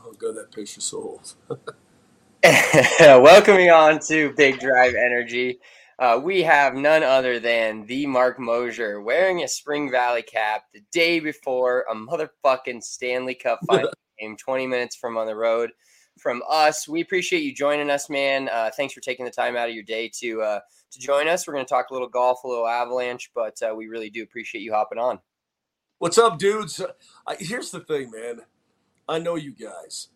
Oh, God, that picture's so old. Welcoming on to Big Drive Energy, we have none other than the Mark Mosier wearing a Spring Valley cap the day before a motherfucking Stanley Cup final game, 20 minutes from on the road. From us, we appreciate you joining us, man. Thanks for taking the time out of your day to join us. We're going to talk a little golf, a little Avalanche, but we really do appreciate you hopping on. What's up, dudes? Here's the thing, man. I know you guys.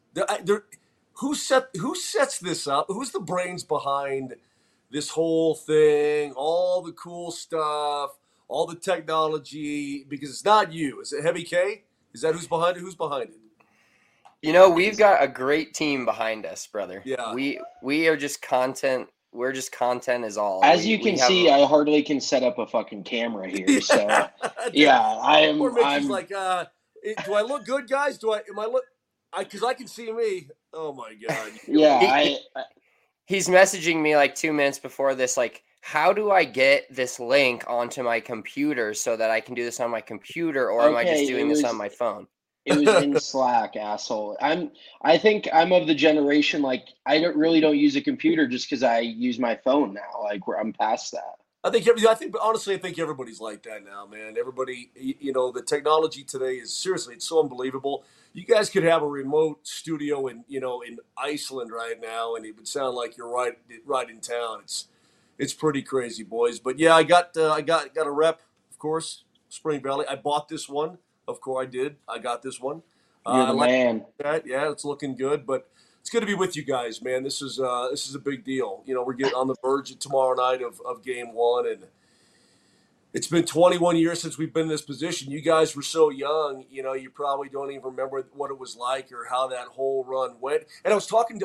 Who sets this up? Who's the brains behind this whole thing? All the cool stuff, all the technology. Because it's not you. Is it Heavy K? Is that who's behind it? Who's behind it? We've got a great team behind us, brother. Yeah. We are just content. We're just content is all. As we, you we can have see, a, I hardly can set up a fucking camera here. So Yeah. yeah, I am. Or Mickey's I'm. like, do I look good, guys? Am I look? Because I can see me. Oh my God. Yeah, he's messaging me like 2 minutes before this, like, how do I get this link onto my computer so that I can do this on my computer, or am I just doing this on my phone? It was in Slack, asshole. I think I'm of the generation like I don't use a computer just because I use my phone now. Like I'm past that. Honestly, I think everybody's like that now, man. Everybody, the technology today is seriously, it's so unbelievable. You guys could have a remote studio in Iceland right now, and it would sound like you're right in town. It's pretty crazy, boys. But yeah, I got a rep, of course, Spring Valley. I bought this one, of course I did. I got this one. You're I the like man. that. Yeah, it's looking good, but it's good to be with you guys, man. This is a big deal. We're getting on the verge of tomorrow night of game one, and it's been 21 years since we've been in this position. You guys were so young, you probably don't even remember what it was like or how that whole run went. And I was talking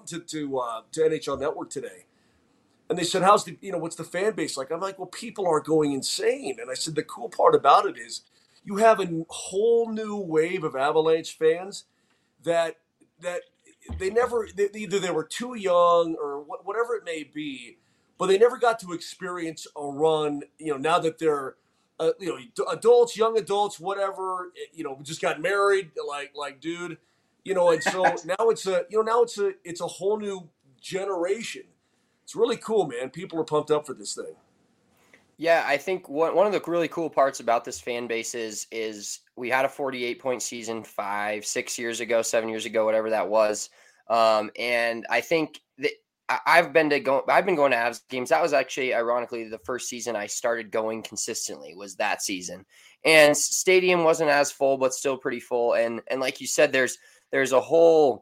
to NHL Network today, and they said, what's the fan base like? I'm like, well, people are going insane. And I said, the cool part about it is you have a whole new wave of Avalanche fans that either they were too young or whatever it may be, but they never got to experience a run. Now that they're adults, young adults, whatever. Just got married, like dude. And so now it's a whole new generation. It's really cool, man. People are pumped up for this thing. Yeah, I think one of the really cool parts about this fan base is we had a 48-point season 5, 6 years ago, 7 years ago, whatever that was. And I think that I've been going to Avs games. That was actually, ironically, the first season I started going consistently was that season. And stadium wasn't as full, but still pretty full. And like you said, there's a whole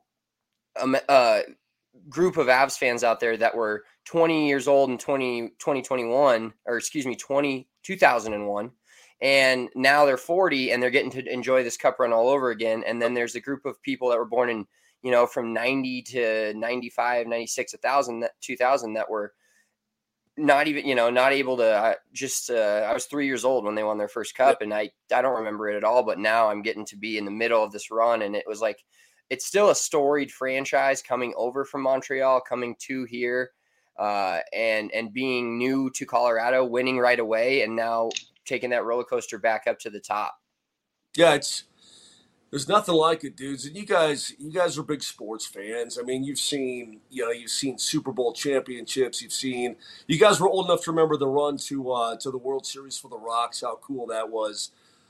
group of Avs fans out there that were 20 years old in 2001, or excuse me, 2001. And now they're 40 and they're getting to enjoy this cup run all over again. And then there's a group of people that were born in, from 90 to 95, 96, 2000 that were not even, not able to I was 3 years old when they won their first cup, and I don't remember it at all, but now I'm getting to be in the middle of this run. And it was like, it's still a storied franchise coming over from Montreal, coming to here, and being new to Colorado, winning right away, and now taking that roller coaster back up to the top. Yeah, there's nothing like it, dudes. And you guys are big sports fans. I mean, you've seen Super Bowl championships. You guys were old enough to remember the run to the World Series for the Rocks. How cool that was.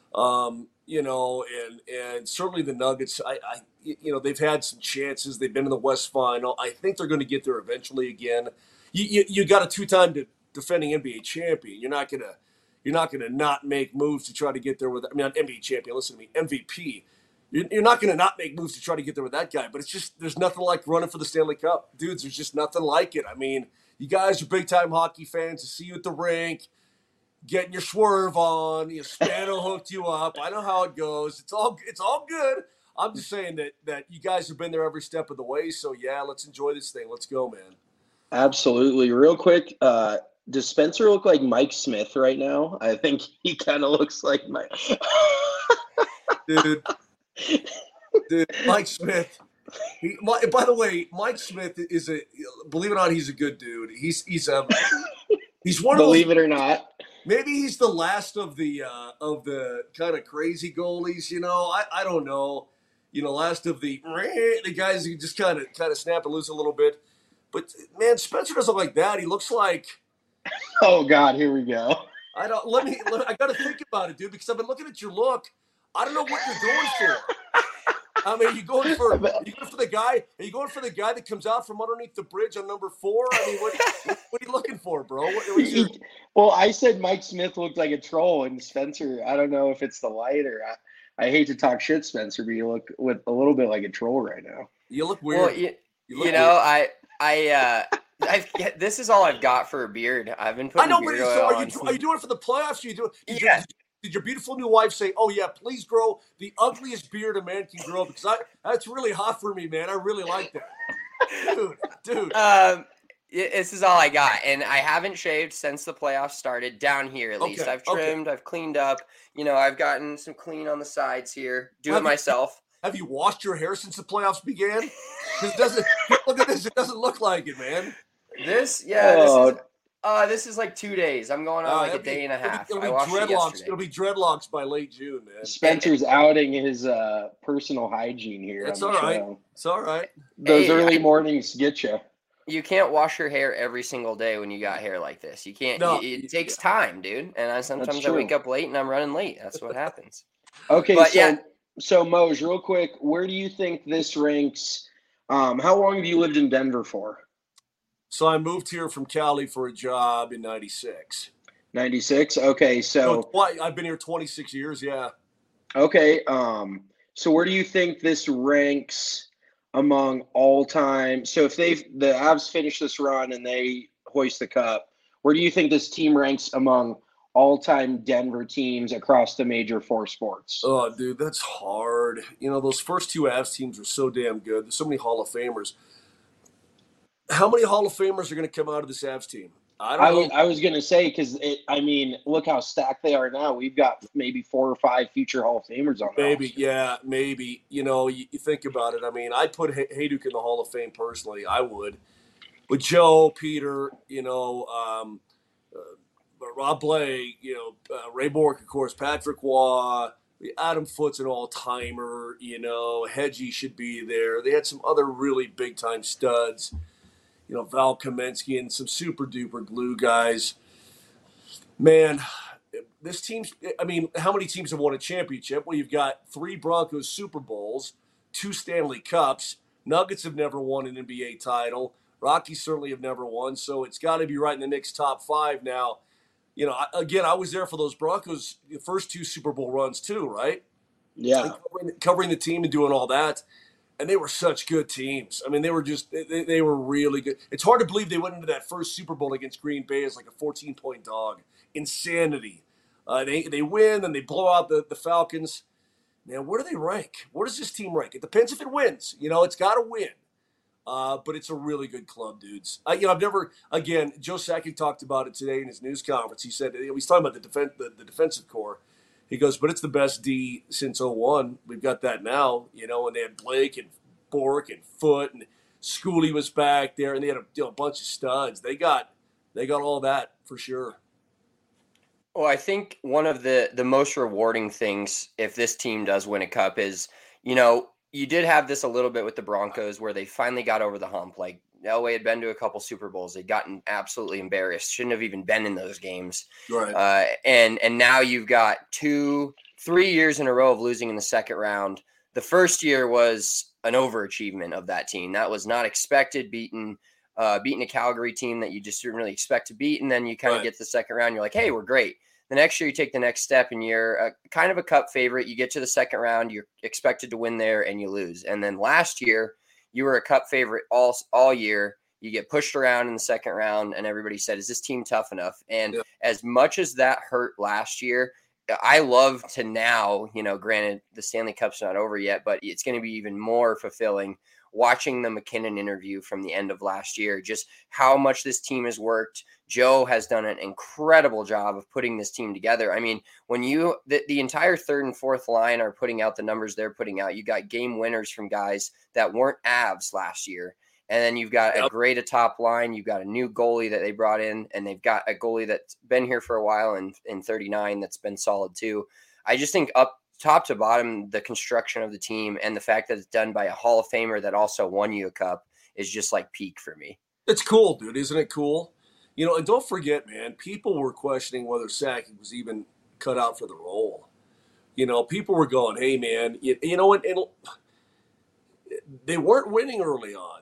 And certainly the Nuggets. They've had some chances. They've been in the West Final. I think they're going to get there eventually again. You got a two-time defending NBA champion. You're not gonna not make moves to try to get there with. I mean, not NBA champion. Listen to me, MVP. You're not going to not make moves to try to get there with that guy. But it's just there's nothing like running for the Stanley Cup, dudes. There's just nothing like it. I mean, you guys are big-time hockey fans. To see you at the rink, getting your swerve on, Spano hooked you up. I know how it goes. It's all good. I'm just saying that you guys have been there every step of the way. So yeah, let's enjoy this thing. Let's go, man. Absolutely. Real quick, does Spencer look like Mike Smith right now? I think he kind of looks like Mike. Dude, Mike Smith. By the way, Mike Smith is believe it or not, he's a good dude. He's one of those. Believe it or not. Maybe he's the last of the kind of crazy goalies. I don't know. last of the guys who just kind of snap and lose a little bit. But man, Spencer doesn't look like that. He looks like Oh God, here we go. I don't. I got to think about it, dude, because I've been looking at your look. I don't know what you're going for. I mean, are you going for the guy? Are you going for the guy that comes out from underneath the bridge on number 4? I mean, what are you looking for, bro? Well, I said Mike Smith looked like a troll, and Spencer, I don't know if it's the light or I hate to talk shit, Spencer, but you look with a little bit like a troll right now. You look weird. Well, you know, this is all I've got for a beard. I've been putting beard oil on. Are you doing it for the playoffs? Yeah. Did your beautiful new wife say, "Oh yeah, please grow the ugliest beard a man can grow"? Because that's really hot for me, man. I really like that, dude. This is all I got, and I haven't shaved since the playoffs started. Down here, at least, I've trimmed, I've cleaned up. I've gotten some clean on the sides here. Do it myself. Have you washed your hair since the playoffs began? Because it doesn't. Look at this. It doesn't look like it, man. This is like 2 days. I'm going on a day and a half. It'll be dreadlocks. It'll be dreadlocks by late June, man. Spencer's outing his personal hygiene here. It's all right. It's all right. Those early mornings get you. You can't wash your hair every single day when you got hair like this. You can't. No, it takes time, dude. And sometimes I wake up late and I'm running late. That's what happens. Okay, so Moj, real quick, where do you think this ranks? How long have you lived in Denver for? So I moved here from Cali for a job in 96. 96? Okay, so I've been here 26 years, yeah. Okay, so where do you think this ranks among all time? So if the Avs finish this run and they hoist the cup, where do you think this team ranks among all-time Denver teams across the major 4 sports? Oh, dude, that's hard. Those first 2 Avs teams are so damn good. There's so many Hall of Famers. How many Hall of Famers are going to come out of this Avs team? I don't know. I was going to say, because, look how stacked they are now. We've got maybe 4 or 5 future Hall of Famers on there. Maybe. You think about it. I mean, I'd put Hayduk in the Hall of Fame personally. I would. But Joe, Peter, Rob Blake, Ray Bourque, of course, Patrick Waugh, Adam Foote's an all-timer, Hedgie should be there. They had some other really big-time studs, Val Kamensky and some super-duper glue guys. Man, this team's – how many teams have won a championship? Well, you've got 3 Broncos Super Bowls, 2 Stanley Cups. Nuggets have never won an NBA title. Rockies certainly have never won, so it's got to be right in the Knicks' top 5 now. I was there for those Broncos, the first 2 Super Bowl runs too, right? Yeah. Covering the team and doing all that. And they were such good teams. I mean, they were they were really good. It's hard to believe they went into that first Super Bowl against Green Bay as like a 14-point dog. Insanity. They win, and they blow out the Falcons. Man, where do they rank? Where does this team rank? It depends if it wins. It's got to win. But it's a really good club, dudes. I've never, again, Joe Sakic talked about it today in his news conference. He said, he's talking about the defensive core. He goes, but it's the best D since 01. We've got that now, and they had Blake and Bourque and Foote, and Schooley was back there, and they had a bunch of studs. They got all that for sure. Well, I think one of the most rewarding things if this team does win a cup is, you did have this a little bit with the Broncos where they finally got over the hump. Like Elway had been to a couple Super Bowls. They'd gotten absolutely embarrassed. Shouldn't have even been in those games. Right. And now you've got 3 years in a row of losing in the second round. The first year was an overachievement of that team. That was not expected, beating a Calgary team that you just didn't really expect to beat. And then you kind of get to the second round. You're like, hey, we're great. The next year you take the next step and you're kind of a cup favorite. You get to the second round, you're expected to win there and you lose. And then last year you were a cup favorite all year. You get pushed around in the second round and everybody said, is this team tough enough? And as much as that hurt last year, I love to now, granted the Stanley Cup's not over yet, but it's going to be even more fulfilling watching the McKinnon interview from the end of last year, just how much this team has worked. Joe has done an incredible job of putting this team together. I mean, when the entire third and fourth line are putting out the numbers they're putting out, you got game winners from guys that weren't Avs last year. And then you've got a great top line. You've got a new goalie that they brought in, and they've got a goalie that's been here for a while in 39 that's been solid too. I just think top to bottom, the construction of the team and the fact that it's done by a Hall of Famer that also won you a cup is just like peak for me. It's cool, dude. Isn't it cool? And don't forget, man, people were questioning whether Sakic was even cut out for the role. People were going, hey, man, and they weren't winning early on,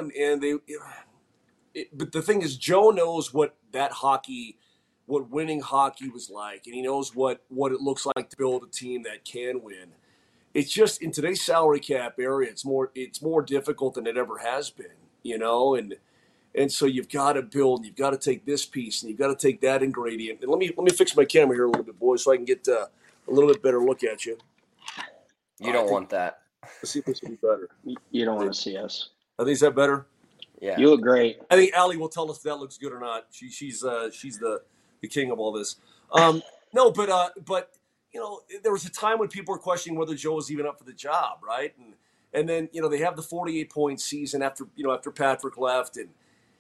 but the thing is, Joe knows what winning hockey was like, and he knows what it looks like to build a team that can win. It's just in today's salary cap area, it's more difficult than it ever has been, and so you've got to build, and you've got to take this piece, and you've got to take that ingredient. And let me fix my camera here a little bit, boys, so I can get a little bit better look at you. You don't want that. Let's see if this will be better. You don't want to see us. I think, is that better? Yeah. You look great. I think Allie will tell us if that looks good or not. She's the king of all this. No, but there was a time when people were questioning whether Joe was even up for the job, right? And then they have the 48-point season after Patrick left, and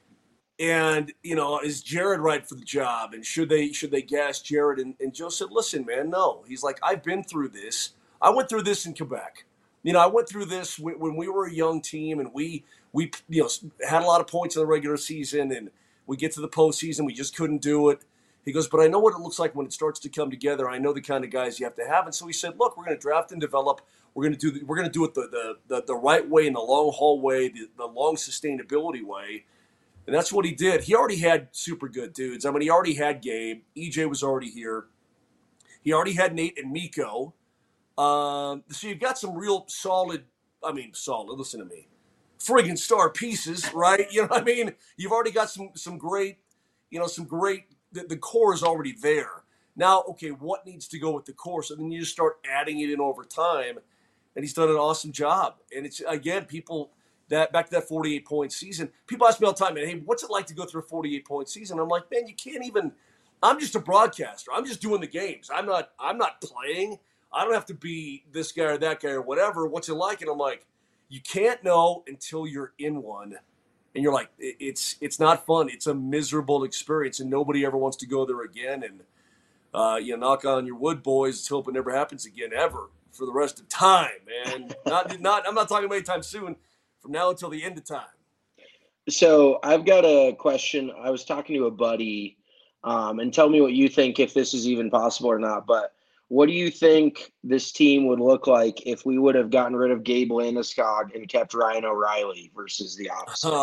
is Jared right for the job? And should they gas Jared? And Joe said, listen, man, no. He's like, I've been through this. I went through this in Quebec. I went through this when we were a young team, and we had a lot of points in the regular season, and we get to the postseason, we just couldn't do it. He goes, but I know what it looks like when it starts to come together. I know the kind of guys you have to have. And so he said, look, we're going to draft and develop. We're going to do it the right way, in the long haul way, the long sustainability way. And that's what he did. He already had super good dudes. I mean, he already had Gabe. EJ was already here. He already had Nate and Miko. So you've got some real solid, listen to me, friggin' star pieces, right? You know what I mean? You've already got some great, the core is already there. Now, okay, what needs to go with the core? So then you just start adding it in over time, and he's done an awesome job. And it's, again, back to that 48-point season, people ask me all the time, man, hey, what's it like to go through a 48-point season? I'm like, man, you can't even, I'm just a broadcaster. I'm just doing the games. I'm not playing. I don't have to be this guy or that guy or whatever. What's it like? And I'm like, you can't know until you're in one. And you're like, it's not fun. It's a miserable experience, and nobody ever wants to go there again. And knock on your wood, boys. Let's hope it never happens again, ever, for the rest of time, man. I'm not talking about anytime soon. From now until the end of time. So I've got a question. I was talking to a buddy, and tell me what you think, if this is even possible or not. But what do you think this team would look like if we would have gotten rid of Gabe Landeskog and kept Ryan O'Reilly versus the opposite?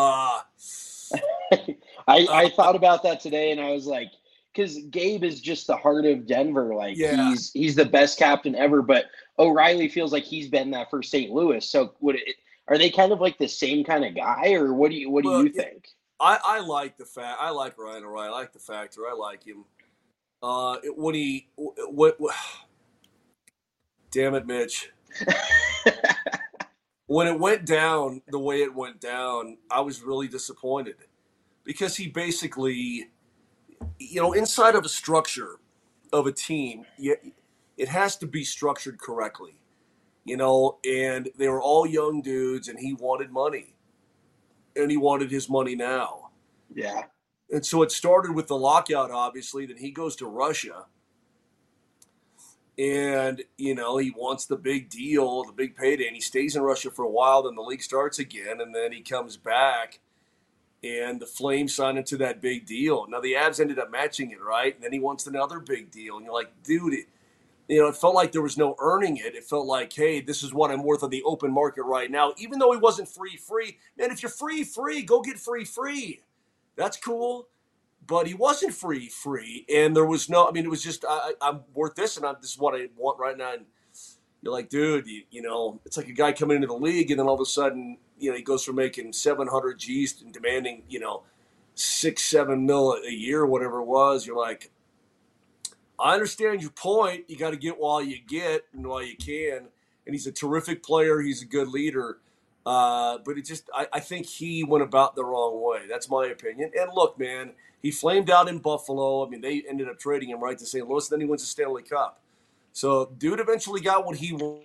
I thought about that today, and I was like, because Gabe is just the heart of Denver. Like, yeah. He's the best captain ever, but O'Reilly feels like he's been that for St. Louis. So are they kind of like the same kind of guy, or what do you think? I like the fact. I like Ryan O'Reilly. I like the factor. I like him. Damn it, Mitch. When it went down the way it went down, I was really disappointed, because he basically, inside of a structure of a team, it has to be structured correctly, and they were all young dudes, and he wanted money, and he wanted his money now. Yeah. And so it started with the lockout, obviously. Then he goes to Russia, and, he wants the big deal, the big payday, and he stays in Russia for a while. Then the league starts again, and then he comes back, and the Flames sign him to that big deal. Now, the Avs ended up matching it, right? And then he wants another big deal. And you're like, dude, it felt like there was no earning it. It felt like, hey, this is what I'm worth on the open market right now. Even though he wasn't free. Man, if you're free, go get free. That's cool. But he wasn't free. And there was no, it was just, I'm worth this, and this is what I want right now. And you're like, dude, it's like a guy coming into the league, and then all of a sudden, he goes from making 700 G's and demanding, 6-7 mil a year, whatever it was. You're like, I understand your point. You got to get while you get and while you can. And he's a terrific player. He's a good leader. But I think he went about the wrong way. That's my opinion. And look, man, he flamed out in Buffalo. They ended up trading him right to St. Louis. Then he wins the Stanley Cup. So, dude eventually got what he wanted.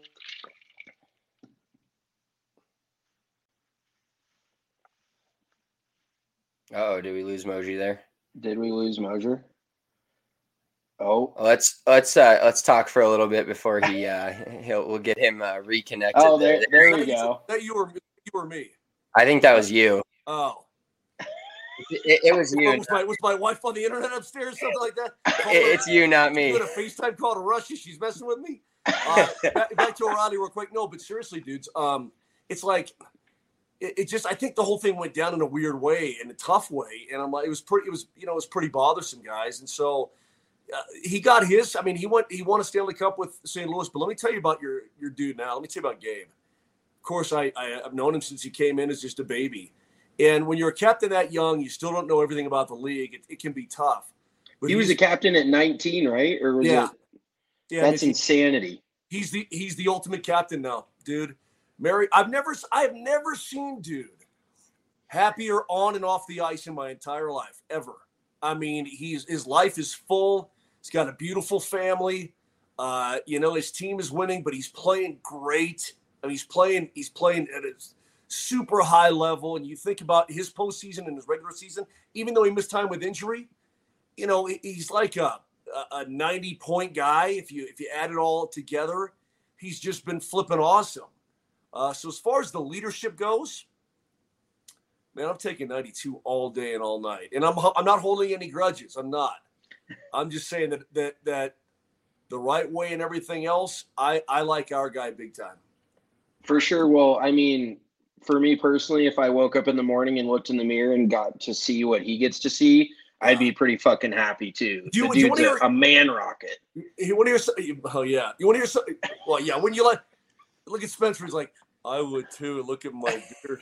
Oh, did we lose Moji there? Did we lose Moser? Oh, Let's talk for a little bit before we'll get him reconnected. oh, there you go. That you or me? I think that was you. Oh, it was you. Was my wife on the internet upstairs, something like that? It's you, not me. You had a FaceTime call to Russia. She's messing with me. Back to O'Reilly real quick. No, but seriously, dudes, it's like it just. I think the whole thing went down in a weird way, in a tough way, and I'm like, it was pretty bothersome, guys. And so he got his. I mean, he won a Stanley Cup with St. Louis. But let me tell you about your dude now. Let me tell you about Gabe. Of course, I've known him since he came in as just a baby. And when you're a captain that young, you still don't know everything about the league. It can be tough. But he was a captain at 19, right? Or was it? Yeah, that's insanity. He's the ultimate captain now, dude. I have never seen dude happier on and off the ice in my entire life ever. I mean, his life is full. He's got a beautiful family. His team is winning, but he's playing great. I mean, he's playing at a super high level. And you think about his postseason and his regular season, even though he missed time with injury, he's like a 90-point guy. If you add it all together, he's just been flipping awesome. So as far as the leadership goes, man, I'm taking 92 all day and all night, and I'm not holding any grudges. I'm not. I'm just saying that the right way and everything else, I like our guy big time. For sure. Well, I mean, for me personally, if I woke up in the morning and looked in the mirror and got to see what he gets to see, I'd be pretty fucking happy too. The dude's a man rocket. You want to hear something? Oh yeah. You want to hear something? Well, yeah. When you look at Spencer, he's like, I would too. Look at my beard.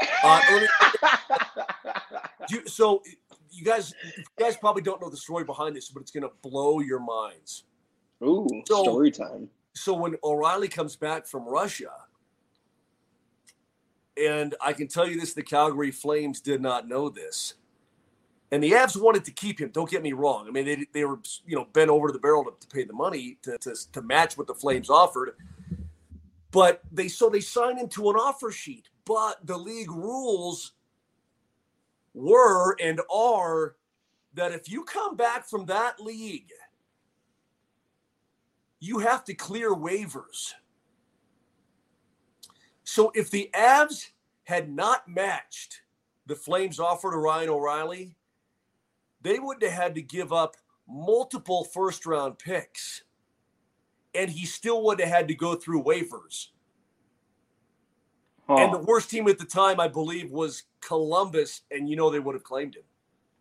So you guys probably don't know the story behind this, but it's gonna blow your minds. Ooh, story time. So when O'Reilly comes back from Russia, and I can tell you this, the Calgary Flames did not know this. And the Avs wanted to keep him. Don't get me wrong. I mean, they were bent over to the barrel to pay the money to match what the Flames offered. But they signed him to an offer sheet. But the league rules were and are that if you come back from that league, you have to clear waivers. So if the Avs had not matched the Flames' offer to Ryan O'Reilly, they would have had to give up multiple first-round picks, and he still would have had to go through waivers. Oh. And the worst team at the time, I believe, was Columbus, and they would have claimed him.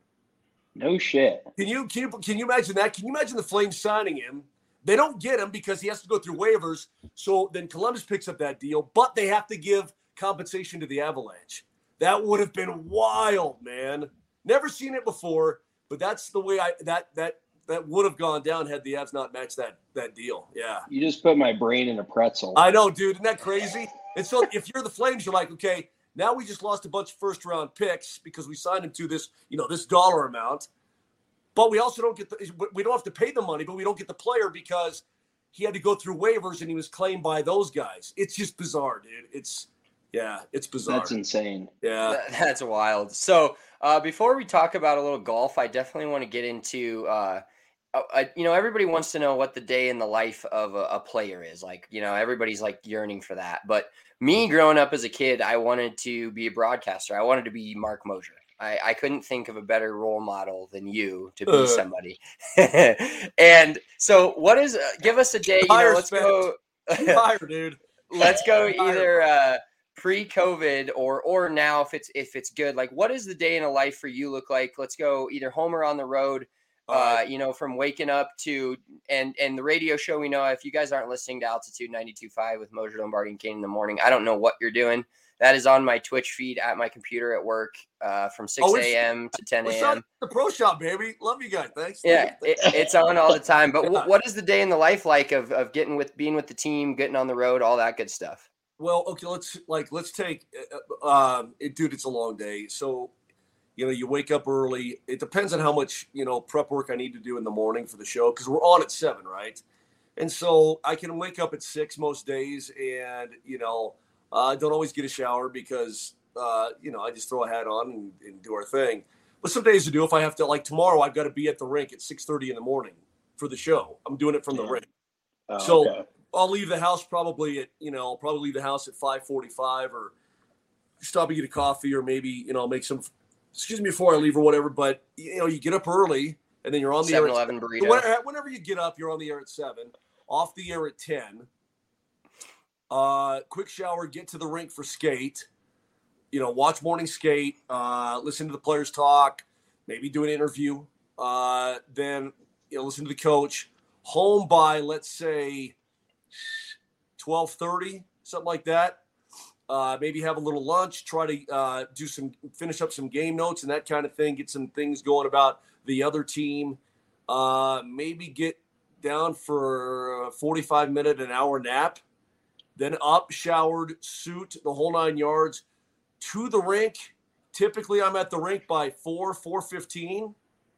No shit. Can you imagine that? Can you imagine the Flames signing him? They don't get him because he has to go through waivers, so then Columbus picks up that deal, but they have to give compensation to the Avalanche. That would have been wild, man. Never seen it before. But that's the way that would have gone down had the Avs not matched that deal. Yeah. You just put my brain in a pretzel. I know, dude. Isn't that crazy? And so if you're the Flames, you're like, okay, now we just lost a bunch of first-round picks because we signed him to this, this dollar amount. But we also we don't have to pay the money, but we don't get the player because he had to go through waivers and he was claimed by those guys. It's just bizarre, dude. It's bizarre. That's insane. Yeah. That's wild. So before we talk about a little golf, I definitely want to get into, everybody wants to know what the day in the life of a player is. Like, everybody's like yearning for that. But me growing up as a kid, I wanted to be a broadcaster. I wanted to be Mark Mosier. I couldn't think of a better role model than you to be somebody. And so give us a day, let's go. Fire, dude. Let's go either pre-COVID or now if it's good. Like, what does the day in a life for you look like? Let's go either home or on the road. From waking up to and the radio show. We know if you guys aren't listening to Altitude 92.5 with Mosier, Lombardi, and Kane in the morning, I don't know what you're doing. That is on my Twitch feed at my computer at work from 6 a.m. to 10 a.m. The pro shop, baby. Love you guys. Thanks. Yeah, it's on all the time. But what is the day in the life like of being with the team, getting on the road, all that good stuff? Well, okay, let's take dude, it's a long day. So, you wake up early. It depends on how much, prep work I need to do in the morning for the show because we're on at 7, right? And so I can wake up at 6 most days and, I don't always get a shower because, I just throw a hat on and do our thing. But some days I do. If I have to, like tomorrow, I've got to be at the rink at 6:30 in the morning for the show. I'm doing it from the rink. Oh, So okay. I'll leave the house probably at, I'll probably leave the house at 5:45 or stop and get a coffee or maybe, make some, before I leave or whatever. But, you get up early and then you're on the air. 7-Eleven burrito. Whenever you get up, you're on the air at 7, off the air at 10. Quick shower, get to the rink for skate, watch morning skate, listen to the players talk, maybe do an interview, then, listen to the coach. Home by, let's say, 12:30, something like that. Maybe have a little lunch, try to finish up some game notes and that kind of thing, get some things going about the other team. Maybe get down for a 45-minute, an hour nap. Then up, showered, suit, the whole 9 yards, to the rink. Typically, I'm at the rink by 4:15.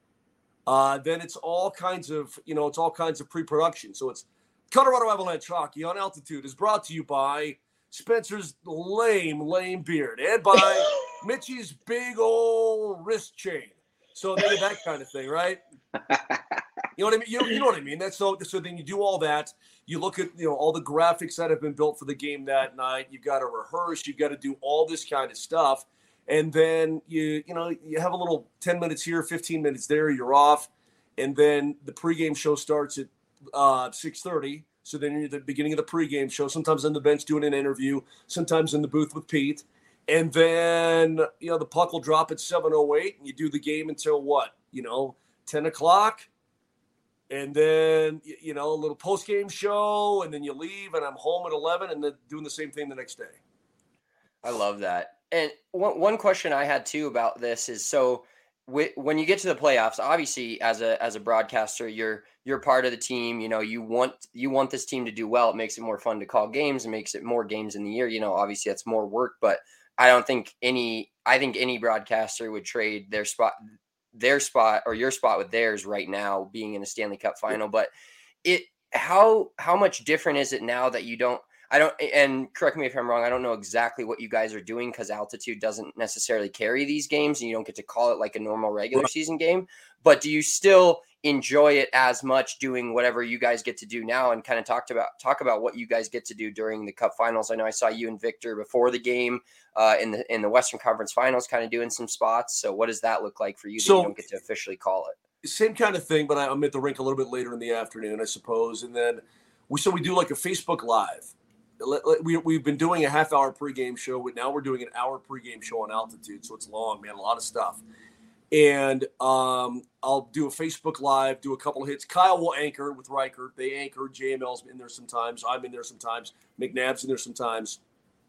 Then it's all kinds of, pre-production. So it's Colorado Avalanche Hockey on Altitude is brought to you by Spencer's lame beard and by Mitchie's big old wrist chain. So that kind of thing, right? You know what I mean? You know what I mean? That's so then you do all that. You look at, all the graphics that have been built for the game that night. You've got to rehearse. You've got to do all this kind of stuff. And then you have a little 10 minutes here, 15 minutes there, you're off. And then the pregame show starts at 6:30. So then you're at the beginning of the pregame show, sometimes on the bench doing an interview, sometimes in the booth with Pete. And then, the puck will drop at 7:08 and you do the game until what? 10 o'clock. And then, a little post-game show, and then you leave, and I'm home at 11 and then doing the same thing the next day. I love that. And one question I had too about this is, so when you get to the playoffs, obviously as a broadcaster, you're part of the team. You want this team to do well. It makes it more fun to call games. It makes it more games in the year. Obviously that's more work, but I think any broadcaster would trade their spot or your spot with theirs right now, being in a Stanley Cup final. But how much different is it now that and correct me if I'm wrong, I don't know exactly what you guys are doing because Altitude doesn't necessarily carry these games and you don't get to call it like a normal regular season game. But do you still enjoy it as much doing whatever you guys get to do now, and kind of talk about what you guys get to do during the Cup finals? I know I saw you and Victor before the game in the Western Conference Finals kind of doing some spots. So what does that look like for you that you don't get to officially call it? Same kind of thing, but I'm at the rink a little bit later in the afternoon, I suppose. And then we do like a Facebook Live. We've been doing a half-hour pregame show, but now we're doing an hour pregame show on Altitude, so it's long, man, a lot of stuff. And I'll do a Facebook Live, do a couple of hits. Kyle will anchor with Reichert. They anchor. JML's in there sometimes. I'm in there sometimes. McNabb's in there sometimes.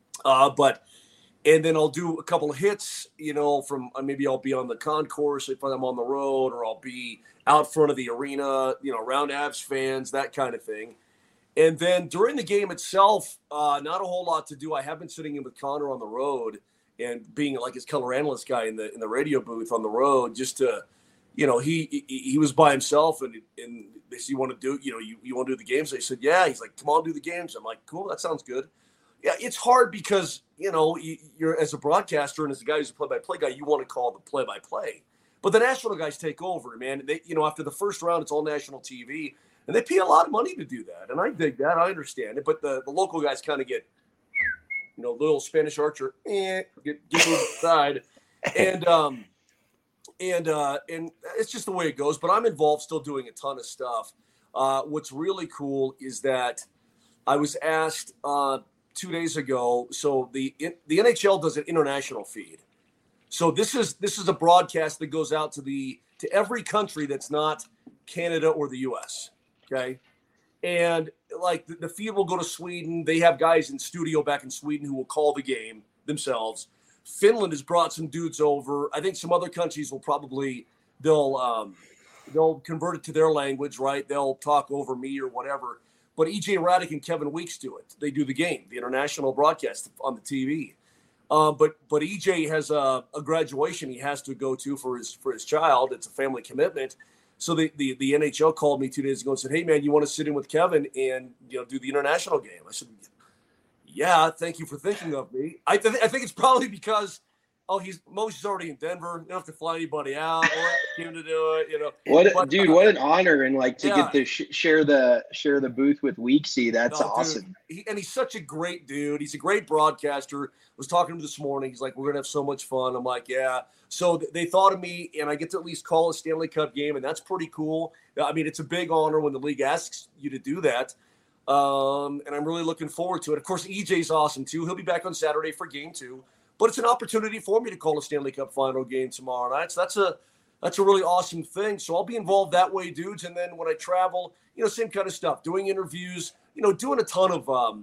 And then I'll do a couple of hits, from maybe I'll be on the concourse if I'm on the road, or I'll be out front of the arena, around Avs fans, that kind of thing. And then during the game itself, not a whole lot to do. I have been sitting in with Connor on the road and being like his color analyst guy in the radio booth on the road, just to, he was by himself and they said, you want to do, you want to do the games? I said, yeah. He's like, come on, do the games. I'm like, cool, that sounds good. Yeah, it's hard because, you're as a broadcaster and as a guy who's a play-by-play guy, you want to call the play-by-play. But the national guys take over, man. They, after the first round, it's all national TV. And they pay a lot of money to do that. And I dig that. I understand it. But the local guys kind of get, little Spanish Archer, get moved aside. And it's just the way it goes. But I'm involved still doing a ton of stuff. What's really cool is that I was asked 2 days ago. So the NHL does an international feed. So this is a broadcast that goes out to every country that's not Canada or the U.S., okay? And like the feed will go to Sweden. They have guys in studio back in Sweden who will call the game themselves. Finland has brought some dudes over. I think some other countries will probably they'll convert it to their language, right? They'll talk over me or whatever. But EJ Radic and Kevin Weeks do it. They do the game, the international broadcast on the TV. But EJ has a graduation he has to go to for his child. It's a family commitment. So the NHL called me 2 days ago and said, hey, man, you want to sit in with Kevin and do the international game? I said, yeah, thank you for thinking of me. I think it's probably because oh, Moshe's already in Denver. You don't have to fly anybody out. We'll ask him to do it. You know, What an honor, and like to yeah. get to share the booth with Weeksy. That's awesome. Dude, and he's such a great dude. He's a great broadcaster. Was talking to him this morning. He's like, we're gonna have so much fun. I'm like, yeah. So they thought of me, and I get to at least call a Stanley Cup game, and that's pretty cool. I mean, it's a big honor when the league asks you to do that. And I'm really looking forward to it. Of course, EJ's awesome too. He'll be back on Saturday for game 2. But it's an opportunity for me to call a Stanley Cup final game tomorrow night. So that's a really awesome thing. So I'll be involved that way, dudes. And then when I travel, you know, same kind of stuff, doing interviews, you know, doing a ton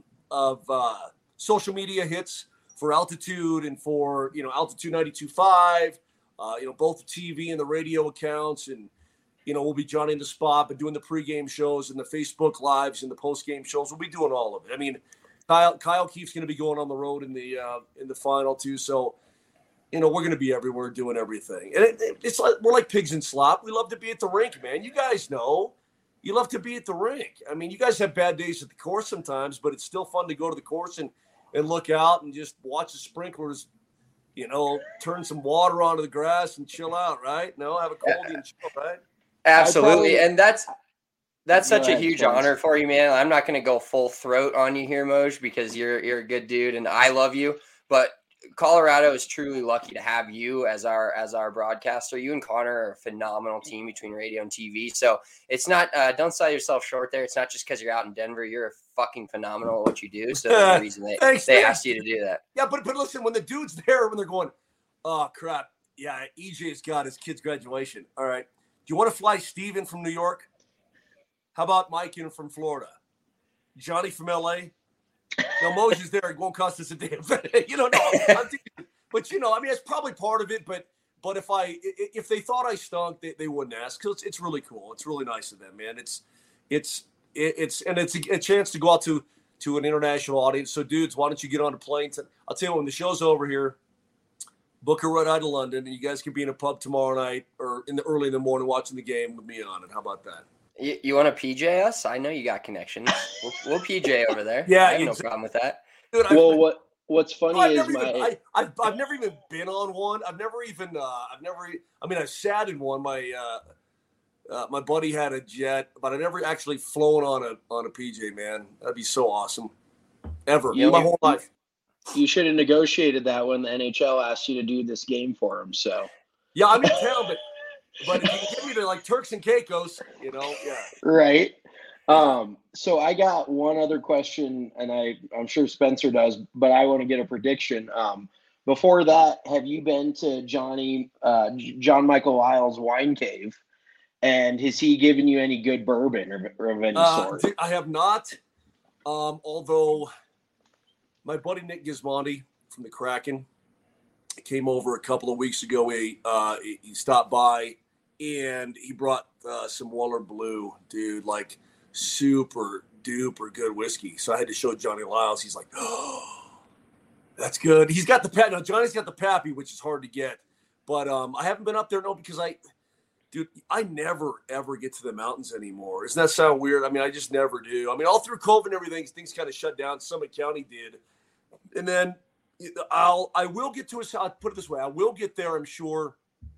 of social media hits for Altitude and for, you know, Altitude 92.5, you know, both the TV and the radio accounts. And, you know, we'll be Johnny in the Spot, but doing the pregame shows and the Facebook Lives and the postgame shows. We'll be doing all of it. I mean, Kyle Keefe's going to be going on the road in the final too. So, you know, we're going to be everywhere doing everything. And it's like we're like pigs in slop. We love to be at the rink, man. You guys know you love to be at the rink. I mean, you guys have bad days at the course sometimes, but it's still fun to go to the course and look out and just watch the sprinklers, you know, turn some water onto the grass and chill out, right? No, have a coldie and chill, right? Absolutely. And that's such a huge Spence. honor for you, man. I'm not going to go full throat on you here, Moj, because you're a good dude and I love you. But Colorado is truly lucky to have you as our broadcaster. You and Connor are a phenomenal team between radio and TV. So it's not don't sell yourself short there. It's not just because you're out in Denver. You're fucking phenomenal at what you do. So there's a reason they asked you to do that. Yeah, but listen, when the dude's there, when they're going, oh crap, yeah, EJ's got his kid's graduation. All right, do you want to fly Steven from New York? How about Mike in from Florida? Johnny from LA? No, Moses there. It won't cost us a damn thing. You know, no. But, you know, I mean, it's probably part of it. But if they thought I stunk, they wouldn't ask. Because it's really cool. It's really nice of them, man. It's a chance to go out to an international audience. So, dudes, why don't you get on a plane? I'll tell you what, when the show's over here, book a ride out to London, and you guys can be in a pub tomorrow night or early in the morning watching the game with me on it. How about that? You want to PJ us? I know you got connections. We'll PJ over there. Yeah, I have no problem with that. Dude, what's funny is I've never even been on one. I've sat in one. My buddy had a jet, but I've never actually flown on a PJ, man. That'd be so awesome. Ever. My whole life. You should have negotiated that when the NHL asked you to do this game for them. So yeah, I'm in town, but if you can get me to like Turks and Caicos, you know, yeah. Right. So I got one other question, and I'm sure Spencer does, but I want to get a prediction. Before that, have you been to John Michael Lyle's Wine Cave? And has he given you any good bourbon or of any sort? I have not. Although my buddy Nick Gismondi from the Kraken came over a couple of weeks ago. He stopped by and he brought some Weller Blue, dude, like super duper good whiskey. So I had to show Johnny Lyles. He's like, oh, that's good. He's got the Pappy. Now Johnny's got the Pappy, which is hard to get. But I haven't been up there, because I never, ever get to the mountains anymore. Doesn't that sound weird? I mean, I just never do. I mean, all through COVID and everything, things kind of shut down. Summit County did. And then I will get to I'll put it this way. I will get there, I'm sure.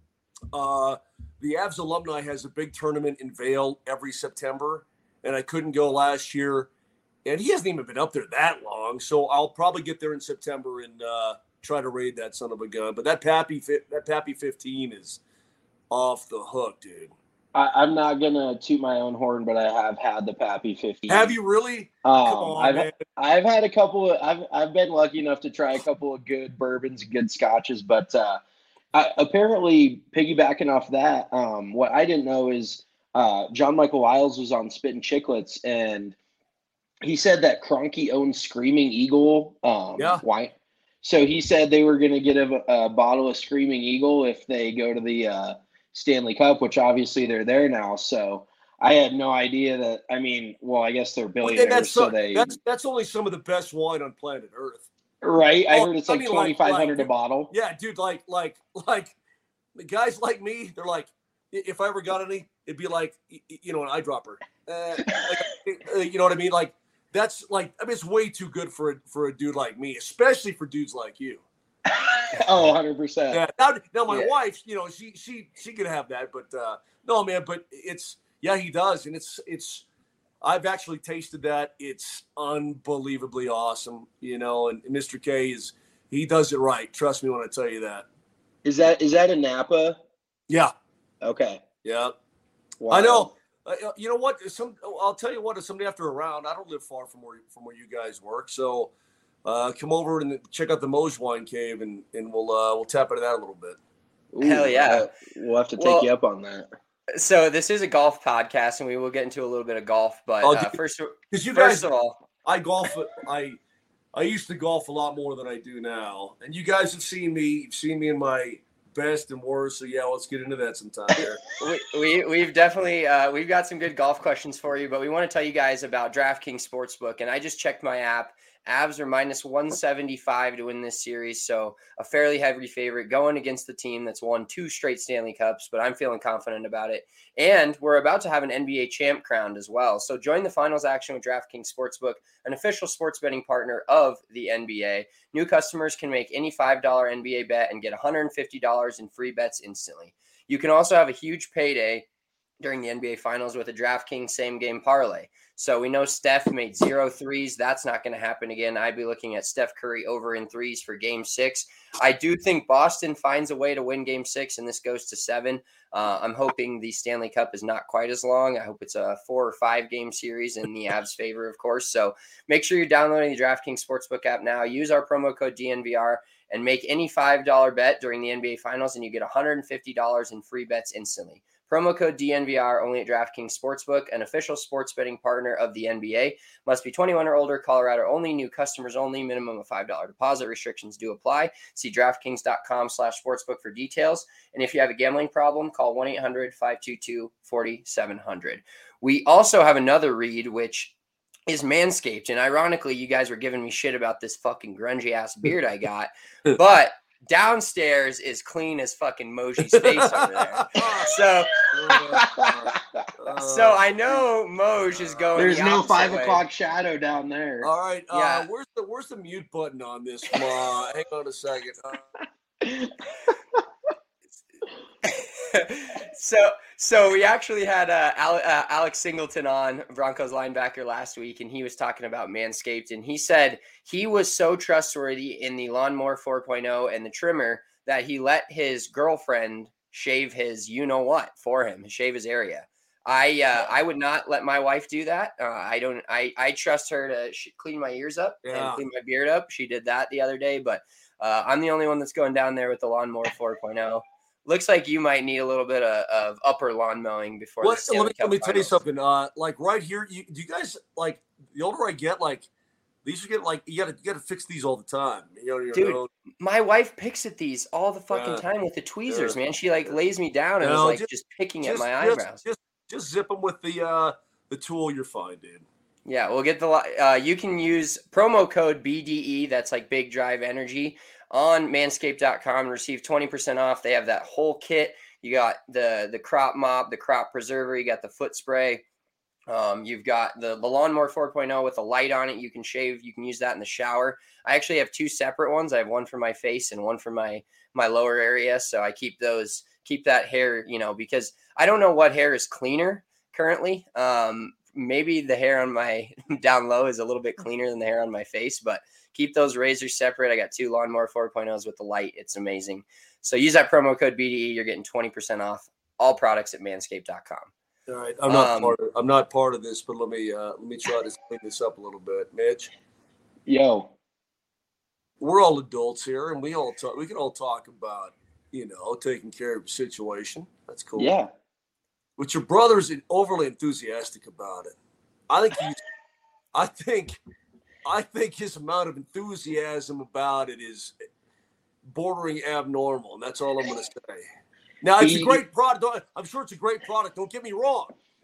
The Avs alumni has a big tournament in Vail every September, and I couldn't go last year. And he hasn't even been up there that long, so I'll probably get there in September and try to raid that son of a gun. But that Pappy 15 is off the hook, dude. I'm not gonna toot my own horn, but I have had the Pappy 15. Have you really? Come on, man. I've had a couple of. I've been lucky enough to try a couple of good bourbons, good scotches, but apparently piggybacking off that, what I didn't know is John Michael Lyles was on Spittin' Chicklets, and he said that Kroenke owns Screaming Eagle wine. So he said they were going to get a bottle of Screaming Eagle if they go to the Stanley Cup, which obviously they're there now. So I had no idea that. I mean, well, I guess they're billionaires. That's only some of the best wine on planet Earth. Right, I heard it's like $2,500 a bottle. Yeah, dude, like guys like me, they're like, if I ever got any, it'd be like, you know, an eyedropper. You know what I mean? Like that's like, I mean, it's way too good for a dude like me, especially for dudes like you. Oh, 100%. Yeah. Now my Yeah. wife, you know, she could have that, but no, man. But he does, and it's. I've actually tasted that. It's unbelievably awesome, you know. And Mr. K he does it right. Trust me when I tell you that. Is that a Napa? Yeah. Okay. Yeah. Wow. I know. You know what? I'll tell you what. If someday after around, I don't live far from where you guys work, so come over and check out the Moj Wine Cave, and we'll tap into that a little bit. Ooh, Hell yeah. We'll have to take you up on that. So this is a golf podcast, and we will get into a little bit of golf. But first of all, I golf. I used to golf a lot more than I do now, and you guys have seen me. You've seen me in my best and worst. So yeah, let's get into that sometime here. We've definitely we've got some good golf questions for you, but we want to tell you guys about DraftKings Sportsbook. And I just checked my app. Avs are minus 175 to win this series, so a fairly heavy favorite going against the team that's won 2 straight Stanley Cups, but I'm feeling confident about it. And we're about to have an NBA champ crowned as well. So join the finals action with DraftKings Sportsbook, an official sports betting partner of the NBA. New customers can make any $5 NBA bet and get $150 in free bets instantly. You can also have a huge payday during the NBA Finals with a DraftKings same-game parlay. So we know Steph made 0 threes. That's not going to happen again. I'd be looking at Steph Curry over in threes for Game 6. I do think Boston finds a way to win Game 6, and this goes to 7. I'm hoping the Stanley Cup is not quite as long. I hope it's a 4 or 5 game series in the Avs' favor, of course. So make sure you're downloading the DraftKings Sportsbook app now. Use our promo code DNVR and make any $5 bet during the NBA Finals, and you get $150 in free bets instantly. Promo code DNVR only at DraftKings Sportsbook, an official sports betting partner of the NBA. Must be 21 or older, Colorado only, new customers only, minimum of $5 deposit. Restrictions do apply. See DraftKings.com/sportsbook for details. And if you have a gambling problem, call 1-800-522-4700. We also have another read, which is Manscaped. And ironically, you guys were giving me shit about this fucking grungy ass beard I got, but downstairs is clean as fucking Moji's face over there. So I know Moj is going. There's no 5 o'clock shadow down there. All right. Yeah. Where's the mute button on this? Hang on a second. So we actually had Alex Singleton on, Broncos linebacker, last week, and he was talking about Manscaped, and he said he was so trustworthy in the Lawnmower 4.0 and the trimmer that he let his girlfriend shave his you-know-what for him, shave his area. I would not let my wife do that. I trust her to clean my ears up and clean my beard up. She did that the other day, but I'm the only one that's going down there with the Lawnmower 4.0. Looks like you might need a little bit of upper lawn mowing before. Let me tell you something. Like right here, do you guys like the older I get, like these are getting like you gotta fix these all the time. Dude, my wife picks at these all the fucking time with the tweezers, man. She lays me down and is just picking at my eyebrows. Just zip them with the tool. You're fine, dude. Yeah, we'll get the. You can use promo code BDE. That's like Big Drive Energy on manscaped.com and receive 20% off. They have that whole kit. You got the crop mop, the crop preserver. You got the foot spray. You've got the Lawnmower 4.0 with a light on it. You can shave. You can use that in the shower. I actually have 2 separate ones. I have one for my face and one for my lower area. So I keep that hair, because I don't know what hair is cleaner currently. Maybe the hair on my down low is a little bit cleaner than the hair on my face, but keep those razors separate. I got 2 Lawnmower 4.0s with the light. It's amazing. So use that promo code BDE. You're getting 20% off all products at manscaped.com. All right. I'm not part of this, but let me try to clean this up a little bit. Mitch. Yo. We're all adults here, and we can all talk about, taking care of the situation. That's cool. Yeah. But your brother's overly enthusiastic about it. I think his amount of enthusiasm about it is bordering abnormal, and that's all I'm going to say. Now, it's a great product. I'm sure it's a great product. Don't get me wrong.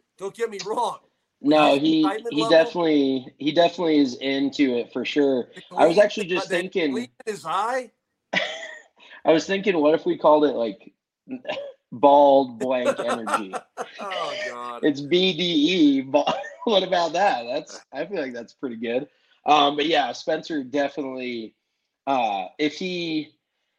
No, he definitely is into it for sure. I was actually just thinking. His eye. I was thinking, what if we called it like bald blank energy? Oh God! It's BDE. What about that? I feel like that's pretty good. But yeah, Spencer definitely. If he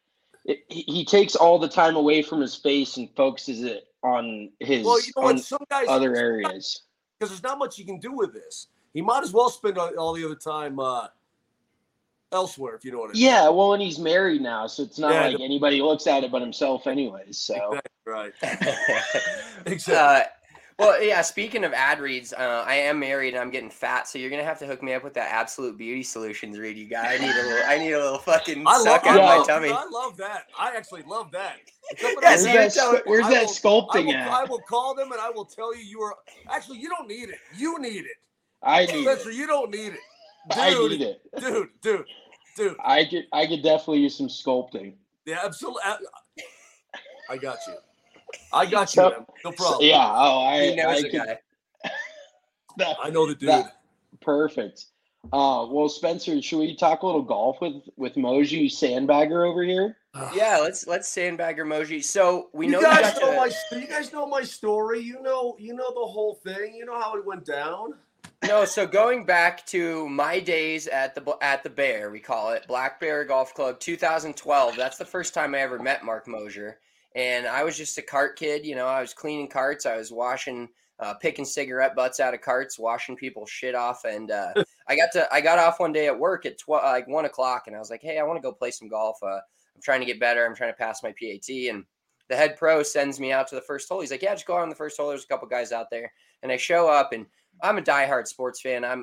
he takes all the time away from his face and focuses it on his Well, you know what? on Some guys, other areas. because there's not much you can do with this. He might as well spend all the other time elsewhere, if you know what I mean. Yeah, well, and he's married now, so it's not Yeah, like anybody looks at it but himself, anyways. So Exactly right. Exactly. Well, yeah. Speaking of ad reads, I am married and I'm getting fat, so you're gonna have to hook me up with that Absolute Beauty Solutions read you got. I need a little fucking suck out Yeah. my tummy. I love that. I actually love that. Yeah, so you're telling- where's I that will- sculpting I at? will call them and I will tell you are actually you don't need it. You need it. I need Spencer, it. you don't need it. I need it. Dude. I could definitely use some sculpting. Yeah, absolutely. I got you. I got you. So- Man. No problem. Yeah. Oh, he knows I the could. guy. I know the dude. Perfect. Well, Spencer, should we talk a little golf with Moji Sandbagger over here? Yeah, let's sandbagger Moji. So we know you guys got know to- you guys know my story. You know the whole thing. You know how it went down. No, so going back to my days at the Bear, we call it Black Bear Golf Club, 2012. That's the first time I ever met Mark Mosier, and I was just a cart kid. You know, I was cleaning carts, I was washing, picking cigarette butts out of carts, washing people's shit off, and I got off one day at work at 1 o'clock, and I was like, hey, I want to go play some golf. I'm trying to get better. I'm trying to pass my PAT, and the head pro sends me out to the first hole. He's like, yeah, just go out on the first hole. There's a couple guys out there, and I show up and. I'm a diehard sports fan. I'm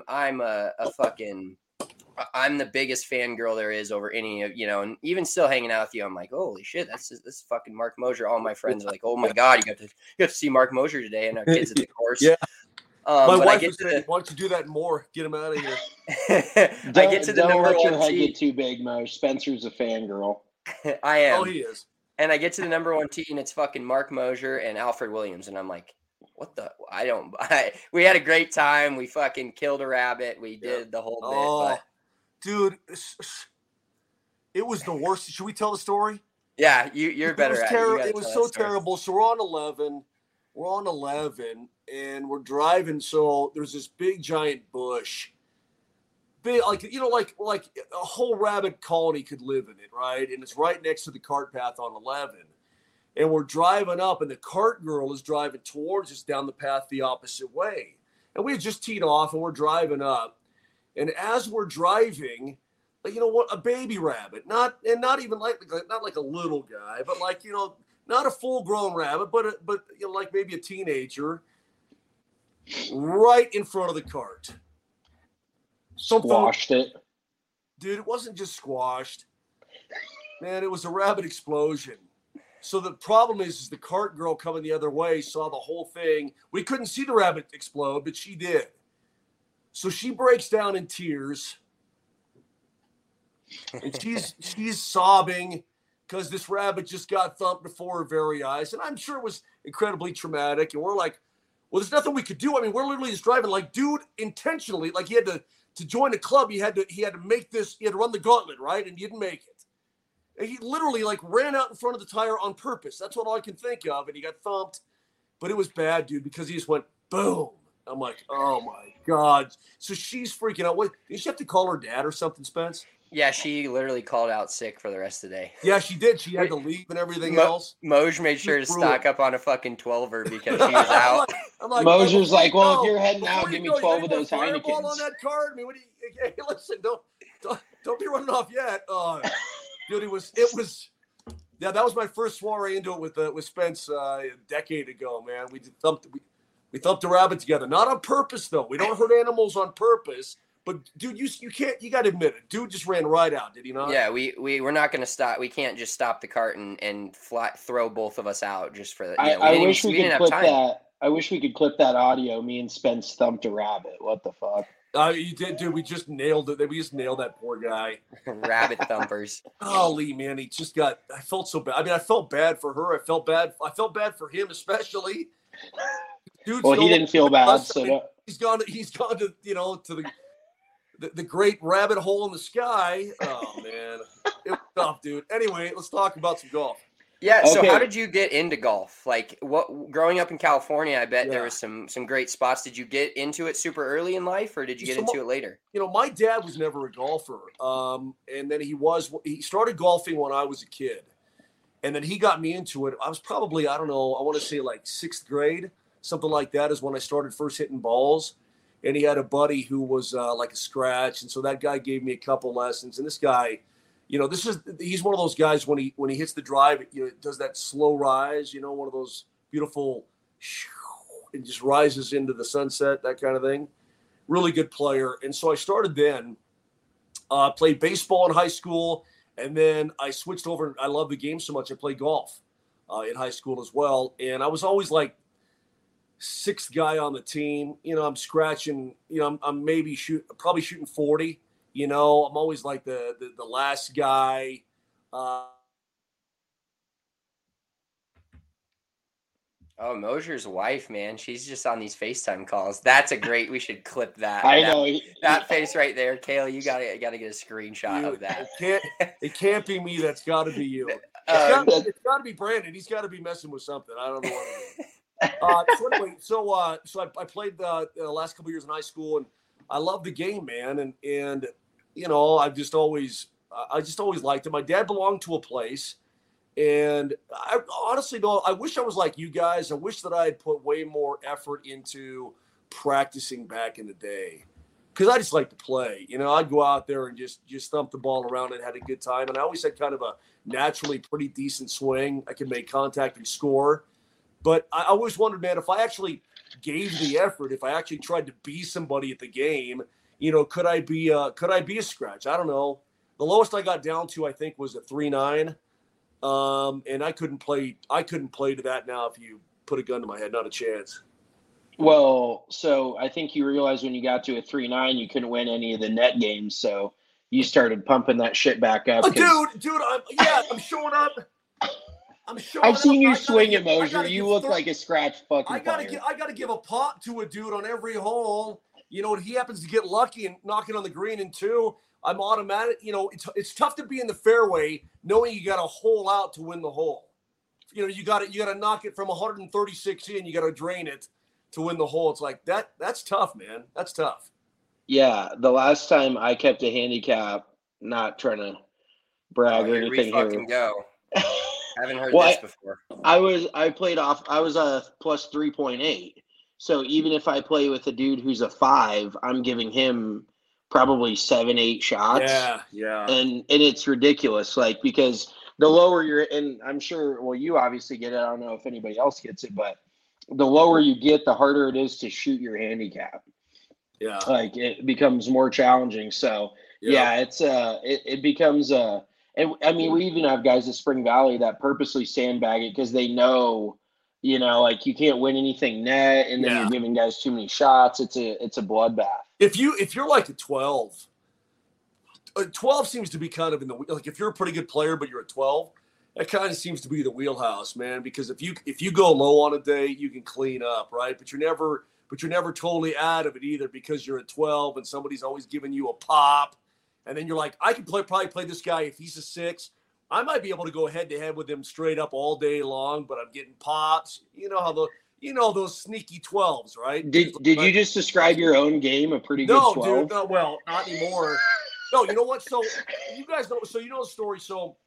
the biggest fangirl there is over any of, you know, and even still hanging out with you, I'm like, holy shit, this fucking Mark Mosier. All my friends are like, oh my God, you got to see Mark Mosier today, and our kids at the course. Yeah. My but wife was saying, why don't you do that more? Get him out of here. I get to the don't number let your one head tee. get too big, Mo. Spencer's a fangirl. I am. Oh, he is. And I get to the number one tee, and it's fucking Mark Mosier and Alfred Williams, and I'm like, what the? We had a great time. We fucking killed a rabbit. We did the whole bit. But Dude, it was the worst. Should we tell the story? yeah, you're better at it. It was so terrible. So we're on 11. We're on 11, and we're driving. So there's this big, giant bush. Big, like a whole rabbit colony could live in it, right? And it's right next to the cart path on 11. And we're driving up, and the cart girl is driving towards us down the path the opposite way. And we had just teed off, and we're driving up. And as we're driving, you know what, a baby rabbit, not even not like a little guy, but like, you know, not a full-grown rabbit, but you know, like maybe a teenager, right in front of the cart. Squashed it. Dude, it wasn't just squashed. Man, it was a rabbit explosion. So the problem is the cart girl coming the other way saw the whole thing. We couldn't see the rabbit explode, but she did. So she breaks down in tears. And she's sobbing because this rabbit just got thumped before her very eyes. And I'm sure it was incredibly traumatic. And we're like, well, there's nothing we could do. I mean, we're literally just driving. Like, dude, intentionally, like he had to join the club, he had to make this, he had to run the gauntlet, right? And he didn't make it. And he literally like ran out in front of the tire on purpose. That's what all I can think of. And he got thumped. But it was bad, dude, because he just went boom. I'm like, oh my God. So she's freaking out. What, did she have to call her dad or something, Spence? Yeah, she literally called out sick for the rest of the day. Yeah, she did. She had to leave and everything else. Moj made sure to stock up on a fucking 12er because she was out. I'm like, Mosier's well, like, well, if you're heading before out, you give me go, 12 you of got those any more Fireball Heinekens. on that card? I mean, what do you, hey, listen, don't be running off yet. Dude, it was. Yeah, that was my first soiree into it with Spence a decade ago, man. We thumped a rabbit together, not on purpose though. We don't hurt animals on purpose. But dude, you got to admit it. Dude just ran right out, did he not? Yeah, we're not going to stop. We can't just stop the cart and throw both of us out just for that. I wish we could clip that. I wish we could clip that audio. Me and Spence thumped a rabbit. What the fuck? You did, dude. We just nailed it. We just nailed that poor guy. Rabbit thumpers. Golly, man, he just got. I felt so bad. I mean, I felt bad for her. I felt bad for him, especially. Dude, well, he didn't feel bad, so I mean, he's gone to to the great rabbit hole in the sky. Oh man, it was tough, dude. Anyway, let's talk about some golf. Yeah. Okay. So how did you get into golf? Like growing up in California, I bet there was some great spots. Did you get into it super early in life or did you get into it later? You know, my dad was never a golfer. And then he started golfing when I was a kid. And then he got me into it. I was probably, I don't know, I want to say like 6th grade, something like that is when I started first hitting balls. And he had a buddy who was like a scratch. And so that guy gave me a couple lessons. And this guy, he's one of those guys when he hits the drive, it does that slow rise, one of those beautiful, and just rises into the sunset, that kind of thing. Really good player. And so I started then, played baseball in high school. And then I switched over. I love the game so much. I played golf in high school as well. And I was always like 6th guy on the team. I'm scratching, I'm probably shooting 40. I'm always like the last guy. Oh, Mosier's wife, man. She's just on these FaceTime calls. That's a great, we should clip that. I know. That face right there. Kayla, you gotta get a screenshot of that. It can't be me. That's got to be you. It's got to be Brandon. He's got to be messing with something. I don't know what it is. So anyway, so I played the last couple of years in high school, and I love the game, man. And I just always liked it. My dad belonged to a place. And I honestly, though, I wish I was like you guys. I wish that I had put way more effort into practicing back in the day, because I just like to play. I'd go out there and just thump the ball around and had a good time. And I always had kind of a naturally pretty decent swing. I could make contact and score. But I always wondered, man, if I actually gave the effort, if I actually tried to be somebody at the game, could I be a scratch? I don't know. The lowest I got down to, I think, was a 3.9. And I couldn't play to that now if you put a gun to my head, not a chance. Well, so I think you realized when you got to a 3.9, you couldn't win any of the net games, so you started pumping that shit back up. Dude, I'm showing up. I've seen you swing at Mosier. You look like a scratch fucking player. I gotta give a pop to a dude on every hole. And he happens to get lucky and knocking on the green in 2. I'm automatic. It's tough to be in the fairway knowing you got a hole out to win the hole. You got to knock it from 136 in. You got to drain it to win the hole. It's like that. That's tough, man. That's tough. Yeah, the last time I kept a handicap, not trying to brag or anything here. Go. Haven't heard this before. I was a plus 3.8. So even if I play with a dude who's a 5, I'm giving him probably 7-8 shots. Yeah. And it's ridiculous, because the lower you're, and I'm sure, well, you obviously get it. I don't know if anybody else gets it, but the lower you get, the harder it is to shoot your handicap. Yeah. It becomes more challenging. So it becomes and I mean, we even have guys at Spring Valley that purposely sandbag it because they know, you can't win anything net, and then you're giving guys too many shots. It's a bloodbath. If you're like a 12 seems to be kind of in the, like, if you're a pretty good player but you're a 12, that kind of seems to be the wheelhouse, man. Because if you go low on a day, you can clean up, right? But you're never totally out of it either, because you're a 12 and somebody's always giving you a pop, and then you're like, I can probably play this guy if he's a 6. I might be able to go head to head with him straight up all day long, but I'm getting pops. Those sneaky 12s, right? Did you just describe your own game a pretty good 12? No, dude. No, well, not anymore. No, you know what? So you guys know. So you know the story. So,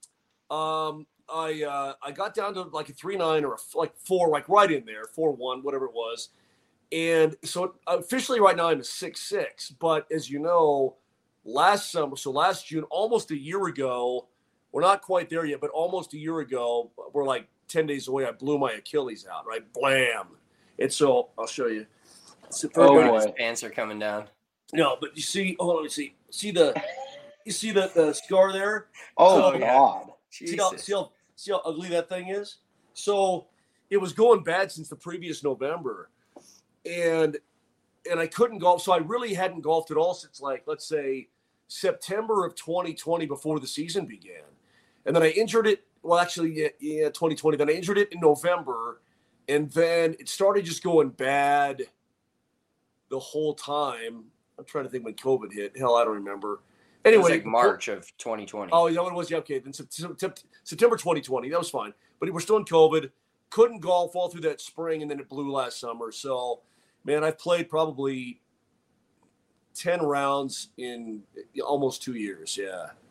I got down to like a 3.9 or like 4, like right in there, 4.1, whatever it was. And so officially right now I'm a 6.6. But as you know, last June, almost a year ago, we're not quite there yet, but almost a year ago, we're like 10 days away, I blew my Achilles out, right? Blam. And so I'll show you. His pants are coming down. No, but you see, let me see. See the scar there? Oh, God. See how ugly that thing is? So it was going bad since the previous November. And I couldn't golf. So I really hadn't golfed at all since, like, let's say September of 2020, before the season began. And then I injured it. Well, actually, 2020. Then I injured it in November. And then it started just going bad the whole time. I'm trying to think when COVID hit. Hell, I don't remember. Anyway, it was like March of 2020. Oh, is that what it was? Yeah, okay. Then September 2020. That was fine. But we're still in COVID. Couldn't golf all through that spring, and then it blew last summer. So, man, I've played probably 10 rounds in almost 2 years. Yeah.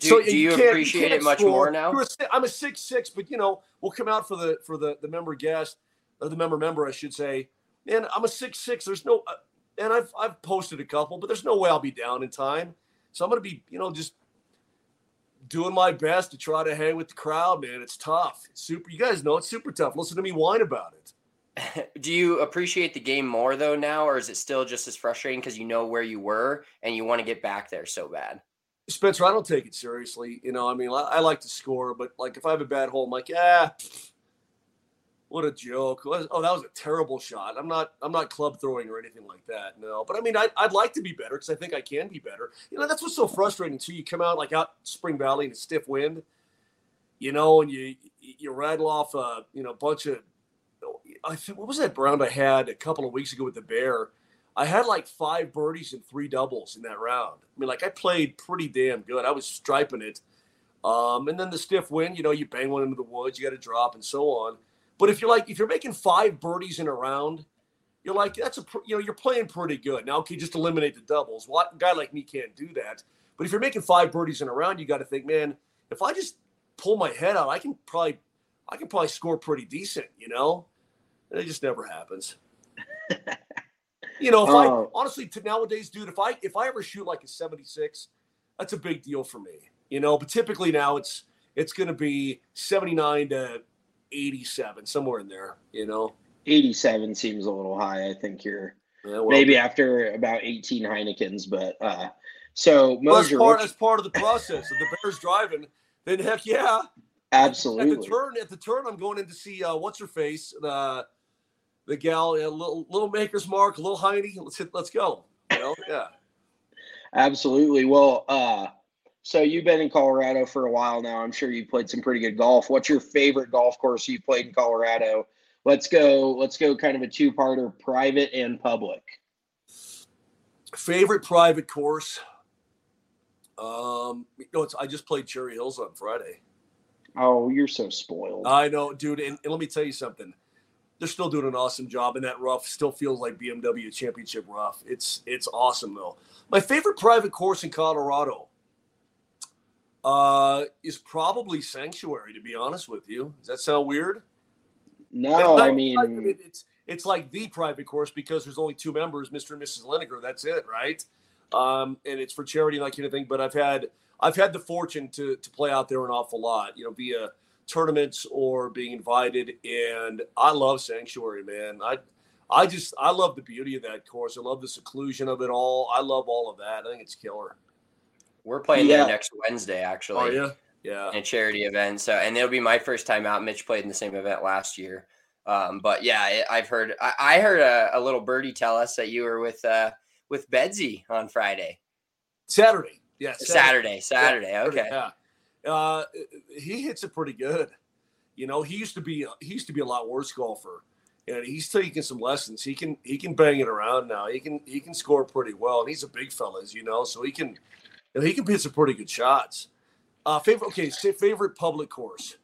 Do you appreciate it much more now? I'm a 6'6", but we'll come out for the member guest or the member, I should say. And I'm a 6'6". There's no, and I've posted a couple, but there's no way I'll be down in time. So I'm gonna be, just doing my best to try to hang with the crowd, man. It's tough. It's super. You guys know it's super tough. Listen to me whine about it. Do you appreciate the game more though now, or is it still just as frustrating because you know where you were and you want to get back there so bad? Spencer, I don't take it seriously. I like to score, but like if I have a bad hole, I'm like, what a joke. Oh, that was a terrible shot. I'm not club throwing or anything like that. No, but I'd like to be better because I think I can be better. That's what's so frustrating too. You come out like out Spring Valley in a stiff wind, and you rattle off a bunch of. What was that round I had a couple of weeks ago with the Bear? I had like 5 birdies and 3 doubles in that round. I played pretty damn good. I was striping it. And then the stiff wind, you bang one into the woods, you got to drop and so on. But if you're making 5 birdies in a round, you're like, you're playing pretty good. Now, okay, just eliminate the doubles. Well, a guy like me can't do that. But if you're making 5 birdies in a round, you got to think, man, if I just pull my head out, I can probably score pretty decent, And it just never happens. Honestly, nowadays, dude, if I ever shoot like a 76, that's a big deal for me, But typically now it's going to be 79 to 87, somewhere in there, 87 seems a little high. I think you're maybe after about 18 Heinekens, but so Mosier, that's part of the process. If the Bears driving, then heck yeah, absolutely. At the turn, I'm going in to see what's her face, the gal, little Maker's Mark, little Heine. Let's go. Yeah. Absolutely. Well, so you've been in Colorado for a while now. I'm sure you played some pretty good golf. What's your favorite golf course you played in Colorado? Let's go kind of a 2-parter, private and public. Favorite private course. I just played Cherry Hills on Friday. Oh, you're so spoiled. I know, dude. And let me tell you something. They're still doing an awesome job, and that rough still feels like BMW Championship rough. It's awesome, though. My favorite private course in Colorado is probably Sanctuary, to be honest with you. Does that sound weird? No, it's like the private course because there's only 2 members, Mr. and Mrs. Lineker. That's it, right? And it's for charity and that kind of thing. But I've had the fortune to play out there an awful lot, via tournaments or being invited, and I love Sanctuary, man. I love the beauty of that course. I love the seclusion of it all. I love all of that. I think it's killer. We're playing there next Wednesday, actually. Oh yeah, in a charity event. So, and it'll be my first time out. Mitch played in the same event last year. But yeah, I heard a little birdie tell us that you were with Bedsy on Friday. Saturday. Yeah. Saturday. Yeah, okay. Yeah. He hits it pretty good. He used to be a lot worse golfer, and he's taking some lessons. He can bang it around now. He can score pretty well, and he's a big fella, as you know, so he can hit some pretty good shots. Favorite public course.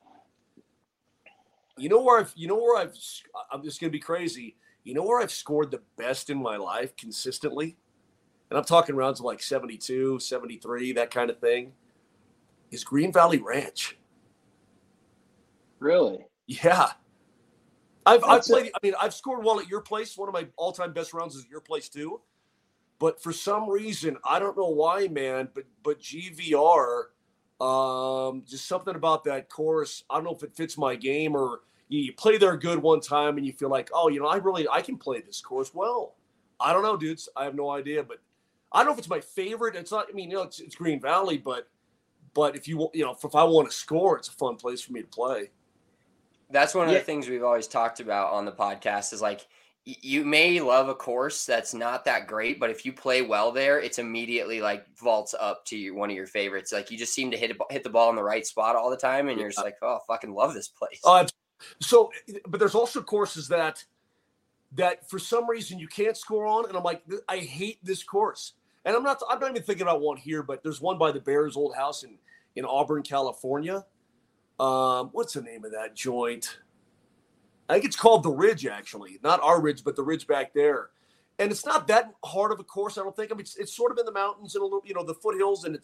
I'm just gonna be crazy. Where I've scored the best in my life consistently, and I'm talking rounds of like 72, 73, that kind of thing, is Green Valley Ranch. Really? Yeah. I've played. I've scored well at your place. One of my all-time best rounds is at your place too. But for some reason, I don't know why, man. But GVR, just something about that course. I don't know if it fits my game, or you play there good one time and you feel like, oh, I can play this course well. I don't know, dudes. I have no idea, but I don't know if it's my favorite. It's not. It's Green Valley, but if if I want to score, it's a fun place for me to play. That's one of the things we've always talked about on the podcast is like, you may love a course that's not that great, but if you play well there, it's immediately like vaults up to one of your favorites. Like you just seem to hit the ball in the right spot all the time. And you're just like, oh, I fucking love this place. But there's also courses that for some reason you can't score on. And I'm like, I hate this course. And I'm not even thinking about one here, but there's one by the Bears' old house in Auburn, California. What's the name of that joint? I think it's called the Ridge, actually. Not our Ridge, but the Ridge back there. And it's not that hard of a course, I don't think. It's sort of in the mountains and a little, the foothills, and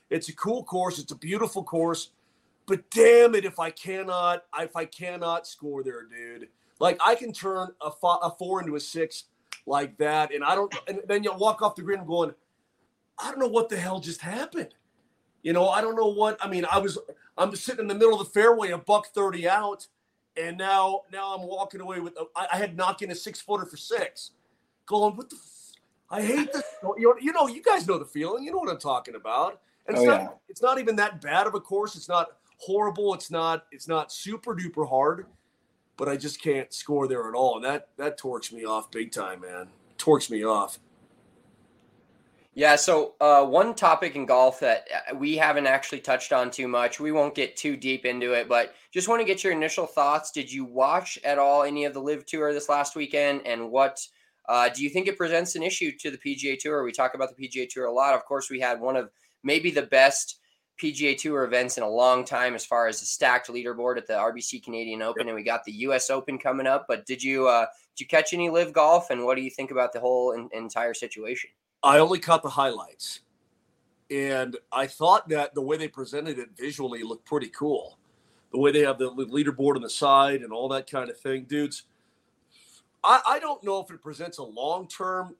It's a cool course. It's a beautiful course. But damn it, if I cannot score there, dude. Like I can turn a 4 into a 6 like that, and then you'll walk off the green going, I don't know what the hell just happened. I don't know what. I mean, I'm sitting in the middle of the fairway, a $130 out, and now I'm walking away with. I had knocked in a 6-footer for 6, going, what the. I hate this. You guys know the feeling. You know what I'm talking about. And it's not even that bad of a course. It's not horrible. It's not super duper hard, but I just can't score there at all. And that torques me off big time, man. Torques me off. Yeah. So one topic in golf that we haven't actually touched on too much, we won't get too deep into it, but just want to get your initial thoughts. Did you watch at all any of the Live Tour this last weekend? And what do you think it presents an issue to the PGA Tour? We talk about the PGA Tour a lot. Of course, we had one of maybe the best PGA Tour events in a long time as far as the stacked leaderboard at the RBC Canadian Open, and we got the U.S. Open coming up. But did you catch any Live golf, and what do you think about the whole entire situation? I only caught the highlights, and I thought that the way they presented it visually looked pretty cool. The way they have the leaderboard on the side and all that kind of thing, dudes. I don't know if it presents a long-term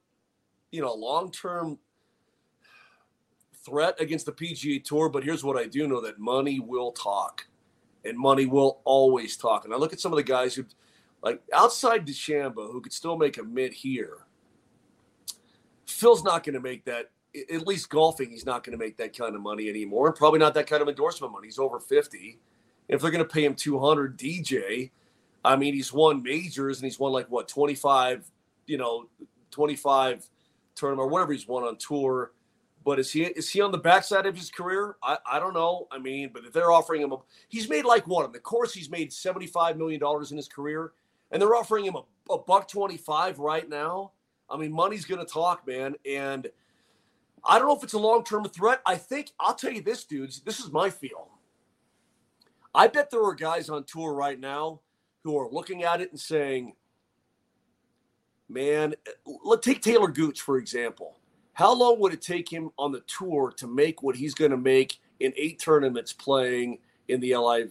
threat against the PGA Tour, but here's what I do know, that money will talk, and money will always talk. And I look at some of the guys who, like outside DeChambeau, who could still make a mid here. Phil's not going to make that, at least golfing, he's not going to make that kind of money anymore, and probably not that kind of endorsement money. He's over 50. If they're going to pay him $200, DJ, I mean, he's won majors, and he's won like what, 25 tournament or whatever he's won on tour. But is he on the backside of his career? I don't know. I mean, but if they're offering him he's made like what on the course, he's made $75 million in his career, and they're offering him a $125 right now. I mean, money's going to talk, man. And I don't know if it's a long-term threat. I think I'll tell you this, dudes. This is my feel. I bet there are guys on tour right now who are looking at it and saying, man, let's take Taylor Gooch, for example. How long would it take him on the tour to make what he's going to make in 8 tournaments playing in the LIV?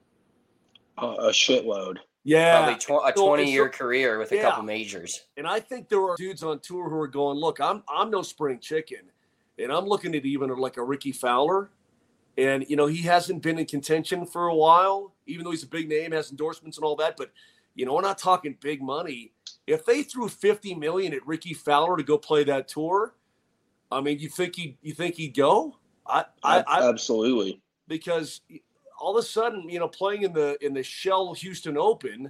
A shitload. Yeah. Probably a 20-year career with a couple majors. And I think there are dudes on tour who are going, look, I'm no spring chicken. And I'm looking at even like a Ricky Fowler. And, he hasn't been in contention for a while, even though he's a big name, has endorsements and all that. But, we're not talking big money. If they threw $50 million at Ricky Fowler to go play that tour, I mean, you think he'd go? Absolutely. Because all of a sudden, playing in the Shell Houston Open,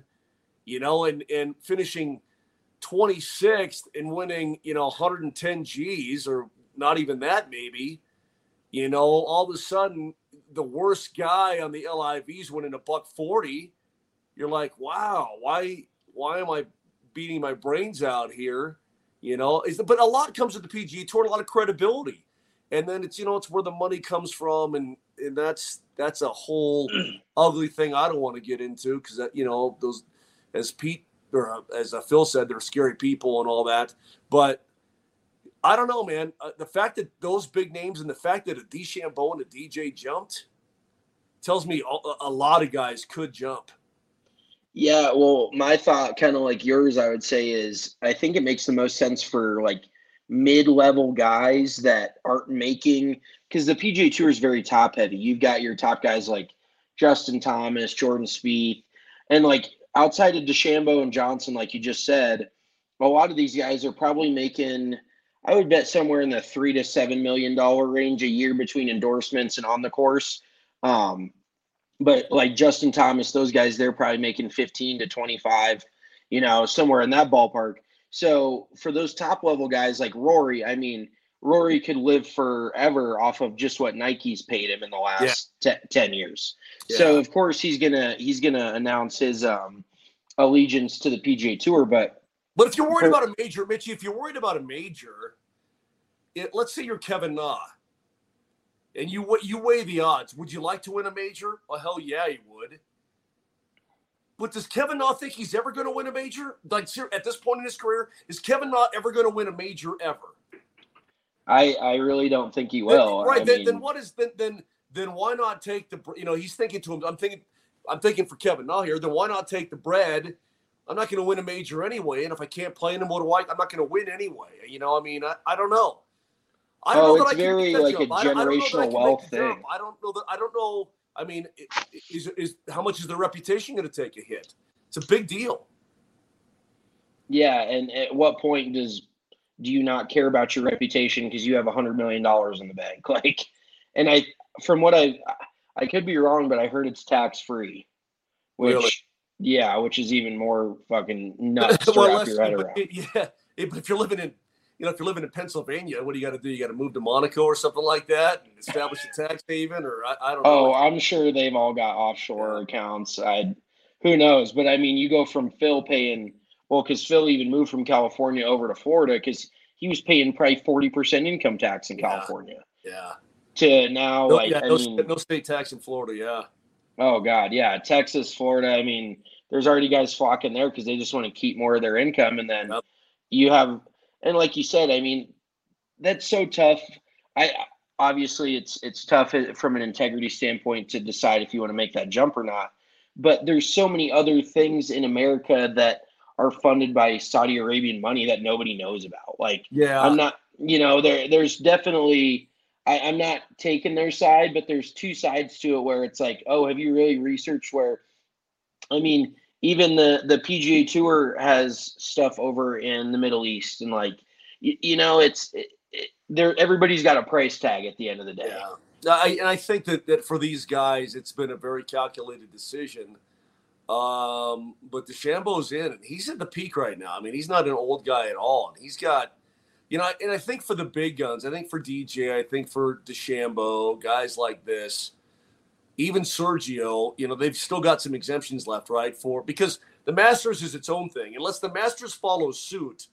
and finishing 26th and winning, 110 G's or not even that maybe, all of a sudden the worst guy on the LIV's winning a $140. You're like, wow, why am I beating my brains out here? But a lot comes with the PGA Tour, a lot of credibility. And then it's, it's where the money comes from. And that's a whole ugly thing I don't want to get into because, those, as Pete or as Phil said, they're scary people and all that. But I don't know, man. The fact that those big names and the fact that a DeChambeau and a DJ jumped tells me a lot of guys could jump. Yeah, well, my thought, kind of like yours, I would say, is I think it makes the most sense for like mid-level guys that aren't making, because the PGA Tour is very top-heavy. You've got your top guys like Justin Thomas, Jordan Spieth, and like outside of DeChambeau and Johnson, like you just said, a lot of these guys are probably making, I would bet, somewhere in the $3 to $7 million range a year between endorsements and on the course. But like Justin Thomas, those guys, they're probably making 15 to 25, somewhere in that ballpark. So for those top level guys like Rory, I mean, Rory could live forever off of just what Nike's paid him in the last 10 years. Yeah. So of course he's gonna announce his allegiance to the PGA Tour. But if you're worried about a major, Mitchie, let's say you're Kevin Na. And you weigh the odds. Would you like to win a major? Well, hell yeah, you would. But does Kevin Na think he's ever going to win a major? Like, at this point in his career, is Kevin Na ever going to win a major ever? I really don't think he will. Right. Then what is then why not take the, he's thinking to him, I'm thinking for Kevin now here, then why not take the bread? I'm not going to win a major anyway. And if I can't play in them, I'm not going to win anyway. I don't know. I don't know that I can very make that like jump. a generational wealth thing. I don't know. I mean, is how much is their reputation going to take a hit? It's a big deal. Yeah, and at what point do you not care about your reputation because you have $100 million in the bank? Like, and from what I could be wrong, but I heard it's tax free, which Really? Yeah, which is even more fucking nuts to wrap your head around. But if you're living in Pennsylvania, what do you got to do? You got to move to Monaco or something like that and establish a tax haven, or I don't know. Oh, I'm sure they've all got offshore accounts. Who knows? But I mean, you go from Phil paying, well, because Phil even moved from California over to Florida because he was paying probably 40% income tax in California. Yeah. To now, no state tax in Florida. Yeah. Oh God, yeah, Texas, Florida. I mean, there's already guys flocking there because they just want to keep more of their income, and then you have, and like you said, I mean, that's so tough. Obviously it's tough from an integrity standpoint to decide if you want to make that jump or not. But there's so many other things in America that are funded by Saudi Arabian money that nobody knows about. Like, I'm not, there's definitely. I'm not taking their side, but there's two sides to it where it's like, oh, have you really researched where, I mean, even the PGA Tour has stuff over in the Middle East, and like, everybody's got a price tag at the end of the day. Yeah. And I think that for these guys, it's been a very calculated decision. But DeChambeau's in, and he's at the peak right now. I mean, he's not an old guy at all, and he's got. And I think for the big guns, I think for DJ, I think for DeChambeau, guys like this, even Sergio, they've still got some exemptions left, right? Because the Masters is its own thing. Unless the Masters follow suit,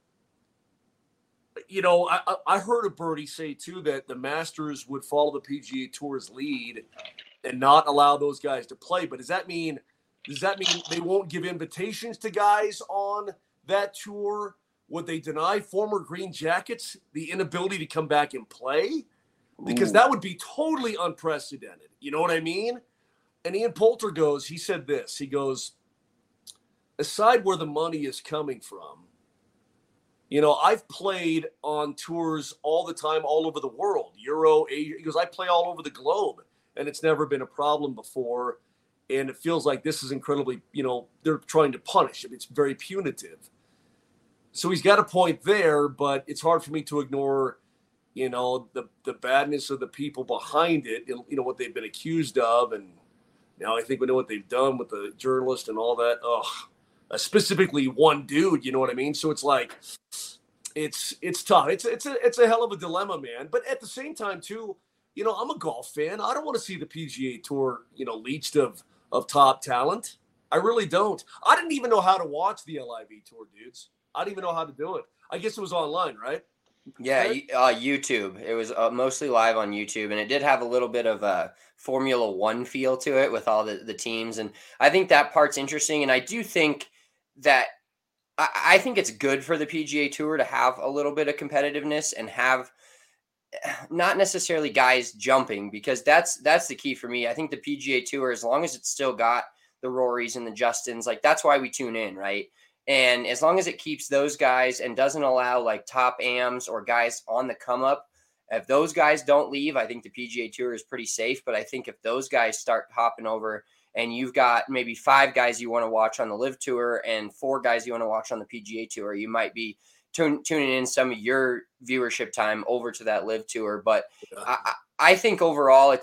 I heard a birdie say too that the Masters would follow the PGA Tour's lead and not allow those guys to play. But does that mean they won't give invitations to guys on that tour? Would they deny former Green Jackets the inability to come back and play? Because that would be totally unprecedented. You know what I mean? And Ian Poulter he said this. He goes, aside where the money is coming from, I've played on tours all the time, all over the world, Euro, Asia. He goes, I play all over the globe, and it's never been a problem before. And it feels like this is incredibly, they're trying to punish him. It's very punitive. So he's got a point there, but it's hard for me to ignore, the badness of the people behind it, and, what they've been accused of. And now I think we know what they've done with the journalist and all that. Specifically one dude, you know what I mean? So it's like, it's tough. It's a hell of a dilemma, man. But at the same time too, I'm a golf fan. I don't want to see the PGA Tour, leached of top talent. I really don't. I didn't even know how to watch the LIV Tour, dudes. I didn't even know how to do it. I guess it was online, right? Yeah, YouTube. It was mostly live on YouTube, and it did have a little bit of a Formula One feel to it with all the teams. And I think that part's interesting. And I do think that I think it's good for the PGA Tour to have a little bit of competitiveness and have not necessarily guys jumping, because that's the key for me. I think the PGA Tour, as long as it's still got the Rorys and the Justins, like that's why we tune in, right? And as long as it keeps those guys and doesn't allow like top AMs or guys on the come up, if those guys don't leave, I think the PGA Tour is pretty safe. But I think if those guys start hopping over and you've got maybe 5 guys you want to watch on the LIV Tour and 4 guys you want to watch on the PGA Tour, you might be tuning in some of your viewership time over to that LIV Tour. But I think overall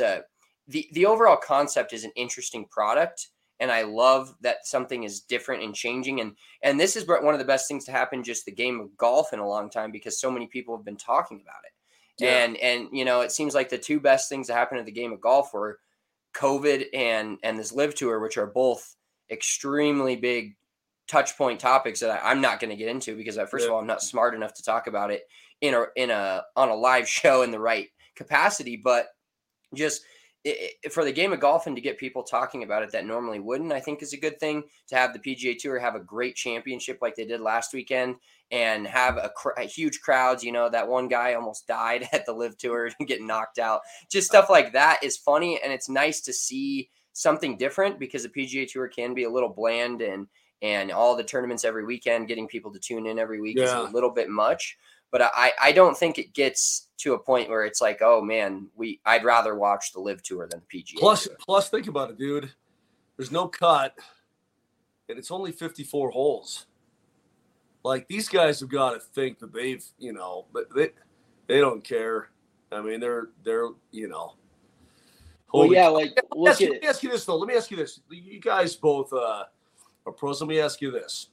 the overall concept is an interesting product. And I love that something is different and changing. And this is one of the best things to happen, just the game of golf in a long time, because so many people have been talking about it. Yeah. And it seems like the 2 best things that happened to the game of golf were COVID and this LIV Tour, which are both extremely big touch point topics that I'm not going to get into because first of all, I'm not smart enough to talk about it on a live show in the right capacity, but just for the game of golf and to get people talking about it that normally wouldn't, I think is a good thing to have the PGA Tour have a great championship like they did last weekend and have a huge crowds. You know, that one guy almost died at the Live Tour and getting knocked out. Just stuff like that is funny, and it's nice to see something different because the PGA Tour can be a little bland, and all the tournaments every weekend, getting people to tune in every week is a little bit much. But I don't think it gets to a point where it's like, oh man, I'd rather watch the Live Tour than the PGA Tour. Plus, think about it, dude. There's no cut, and it's only 54 holes. Like, these guys have got to think that they've, but they don't care. I mean, they're Well, yeah, like let me ask you this though. Let me ask you this. You guys both are pros. Let me ask you this.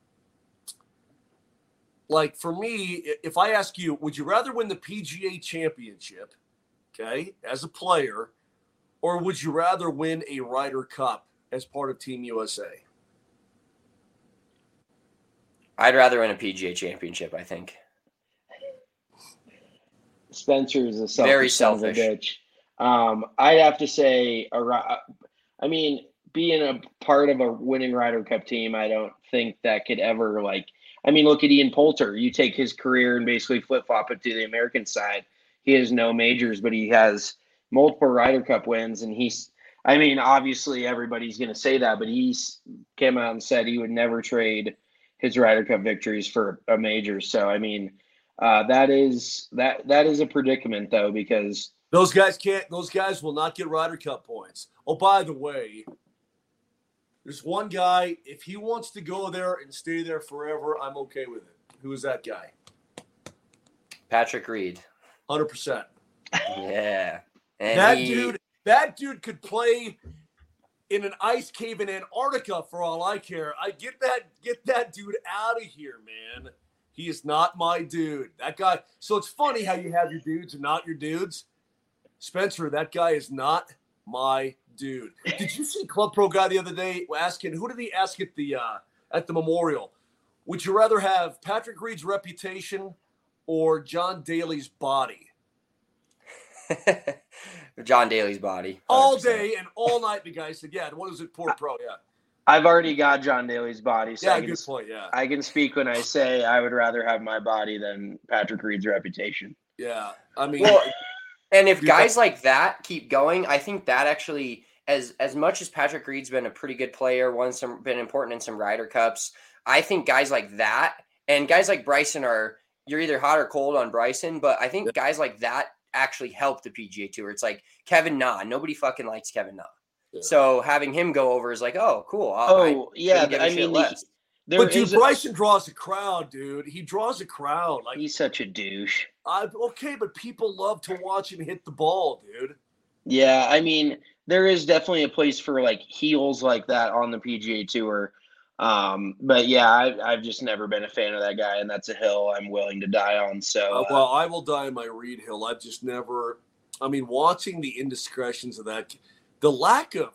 Like, for me, if I ask you, would you rather win the PGA Championship, okay, as a player, or would you rather win a Ryder Cup as part of Team USA? I'd rather win a PGA Championship, I think. Spencer is a very selfish selfish. I'd have to say, I mean, being a part of a winning Ryder Cup team, I don't think that could ever, like, I mean, look at Ian Poulter. You take his career and basically flip-flop it to the American side. He has no majors, but he has multiple Ryder Cup wins. And I mean, obviously everybody's going to say that, but he's came out and said he would never trade his Ryder Cup victories for a major. So, I mean, that is a predicament, though, because those guys will not get Ryder Cup points. Oh, by the way, there's one guy, if he wants to go there and stay there forever, I'm okay with it. Who is that guy? Patrick Reed. 100%. Yeah. And that dude could play in an ice cave in Antarctica for all I care. I get that dude out of here, man. He is not my dude. That guy. So it's funny how you have your dudes and not your dudes. Spencer, that guy is not my dude. Did you see Club Pro guy the other day asking, who did he ask at the memorial? Would you rather have Patrick Reed's reputation or John Daly's body? John Daly's body. 100%. All day and all night, the guy said, yeah, what was it, poor pro, yeah. I've already got John Daly's body. So yeah, good point, yeah. I can speak when I say I would rather have my body than Patrick Reed's reputation. Yeah, I mean. Well, and if guys like that keep going, I think that actually, as much as Patrick Reed's been a pretty good player, been important in some Ryder Cups, I think guys like that and guys like Bryson you're either hot or cold on Bryson, but I think guys like that actually help the PGA Tour. It's like Kevin Na. Nobody fucking likes Kevin Na. Yeah. So having him go over is like, oh, cool. I mean, but dude, Bryson draws a crowd, dude. He draws a crowd. Like, he's such a douche. Okay, but people love to watch him hit the ball, dude. Yeah, I mean, there is definitely a place for like heels like that on the PGA Tour. But yeah, I've just never been a fan of that guy, and that's a hill I'm willing to die on. So, well, I will die on my Reed hill. I've just never. I mean, watching the indiscretions of that, the lack of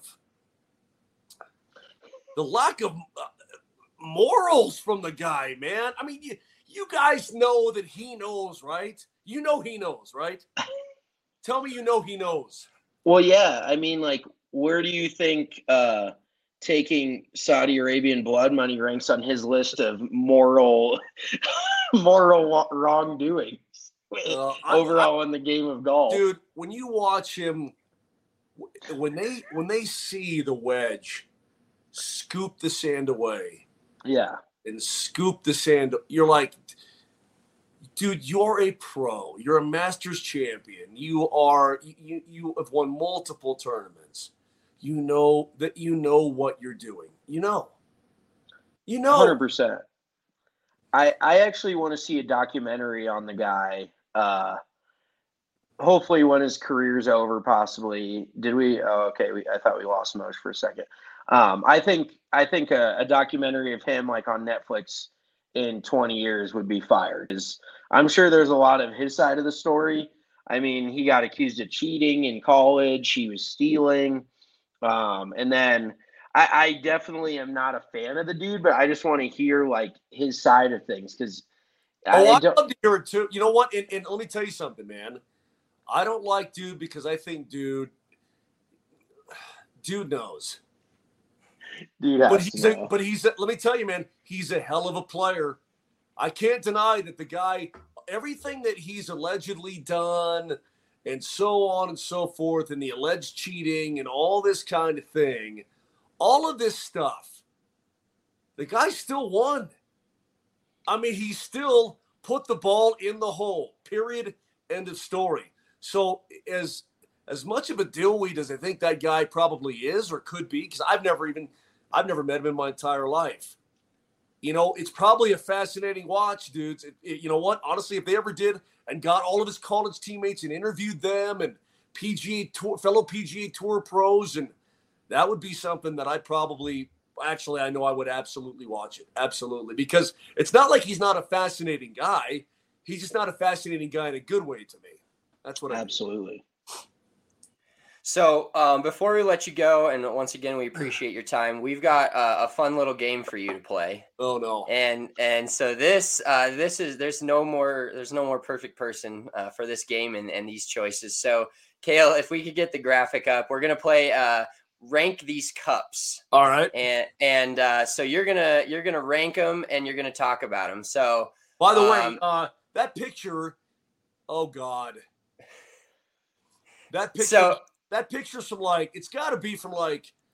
morals from the guy, man. I mean, you guys know that he knows, right? You know he knows, right? Tell me you know he knows. Well, yeah. I mean, like, where do you think taking Saudi Arabian blood money ranks on his list of moral wrongdoings overall in the game of golf? Dude, when you watch him, when they see the wedge scoop the sand away, yeah, and scoop the sand, you're like, dude, you're a pro. You're a Masters champion. You have won multiple tournaments. You know what you're doing. You know. 100%. I actually want to see a documentary on the guy. Hopefully when his career's over, possibly. Did we? Oh, okay. I thought we lost Moj for a second. I think a documentary of him, like on Netflix, in 20 years would be fired. I'm sure there's a lot of his side of the story. I mean, he got accused of cheating in college. He was stealing. And then I definitely am not a fan of the dude, but I just want to hear like his side of things. Cause I'd love to hear it too. You know what? And let me tell you something, man. I don't like dude because I think dude Dude knows. Dude But let me tell you, man, he's a hell of a player. I can't deny that the guy, everything that he's allegedly done and so on and so forth, and the alleged cheating and all this kind of thing, all of this stuff, the guy still won. I mean, he still put the ball in the hole, period, end of story. So as much of a dillweed as I think that guy probably is or could be, because I've never met him in my entire life. You know, it's probably a fascinating watch, dudes. You know what? Honestly, if they ever did and got all of his college teammates and interviewed them and fellow PGA Tour pros, and that would be something that I know I would absolutely watch it. Absolutely. Because it's not like he's not a fascinating guy. He's just not a fascinating guy in a good way to me. That's what absolutely. So before we let you go, and once again, we appreciate your time. We've got a fun little game for you to play. Oh no! And so there's no more perfect person for this game and these choices. So Cale, if we could get the graphic up, we're gonna play rank these cups. All right. And so you're gonna rank them and you're gonna talk about them. So by the way, that picture, oh God, that picture. So, that picture's from it's got to be from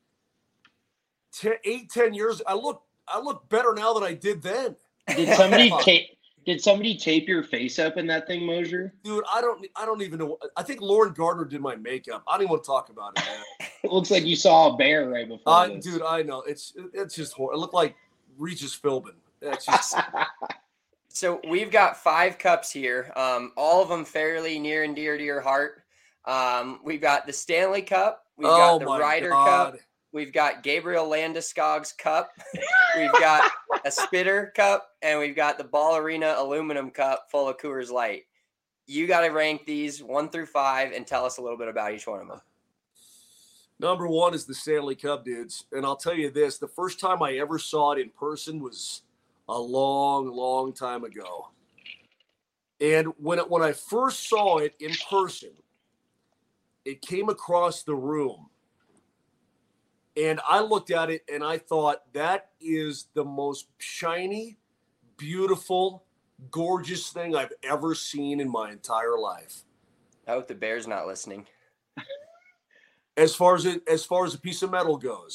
10 years. I look better now than I did then. Did somebody tape your face up in that thing, Mosier? Dude, I don't even know. I think Lauren Gardner did my makeup. I don't even want to talk about it, man. It looks like you saw a bear right before this. Dude, I know. It's just horrible. It looked like Regis Philbin. It's just... So we've got 5 cups here. All of them fairly near and dear to your heart. We've got the Stanley Cup. We've got the Ryder Cup. We've got Gabriel Landeskog's Cup. We've got a Spitter Cup, and we've got the Ball Arena Aluminum Cup full of Coors Light. You got to rank these 1 through 5 and tell us a little bit about each one of them. Number 1 is the Stanley Cup, dudes. And I'll tell you this, the first time I ever saw it in person was a long, long time ago. And when I first saw it in person, it came across the room. And I looked at it and I thought, that is the most shiny, beautiful, gorgeous thing I've ever seen in my entire life. I hope the Bear's not listening. As far as a piece of metal goes.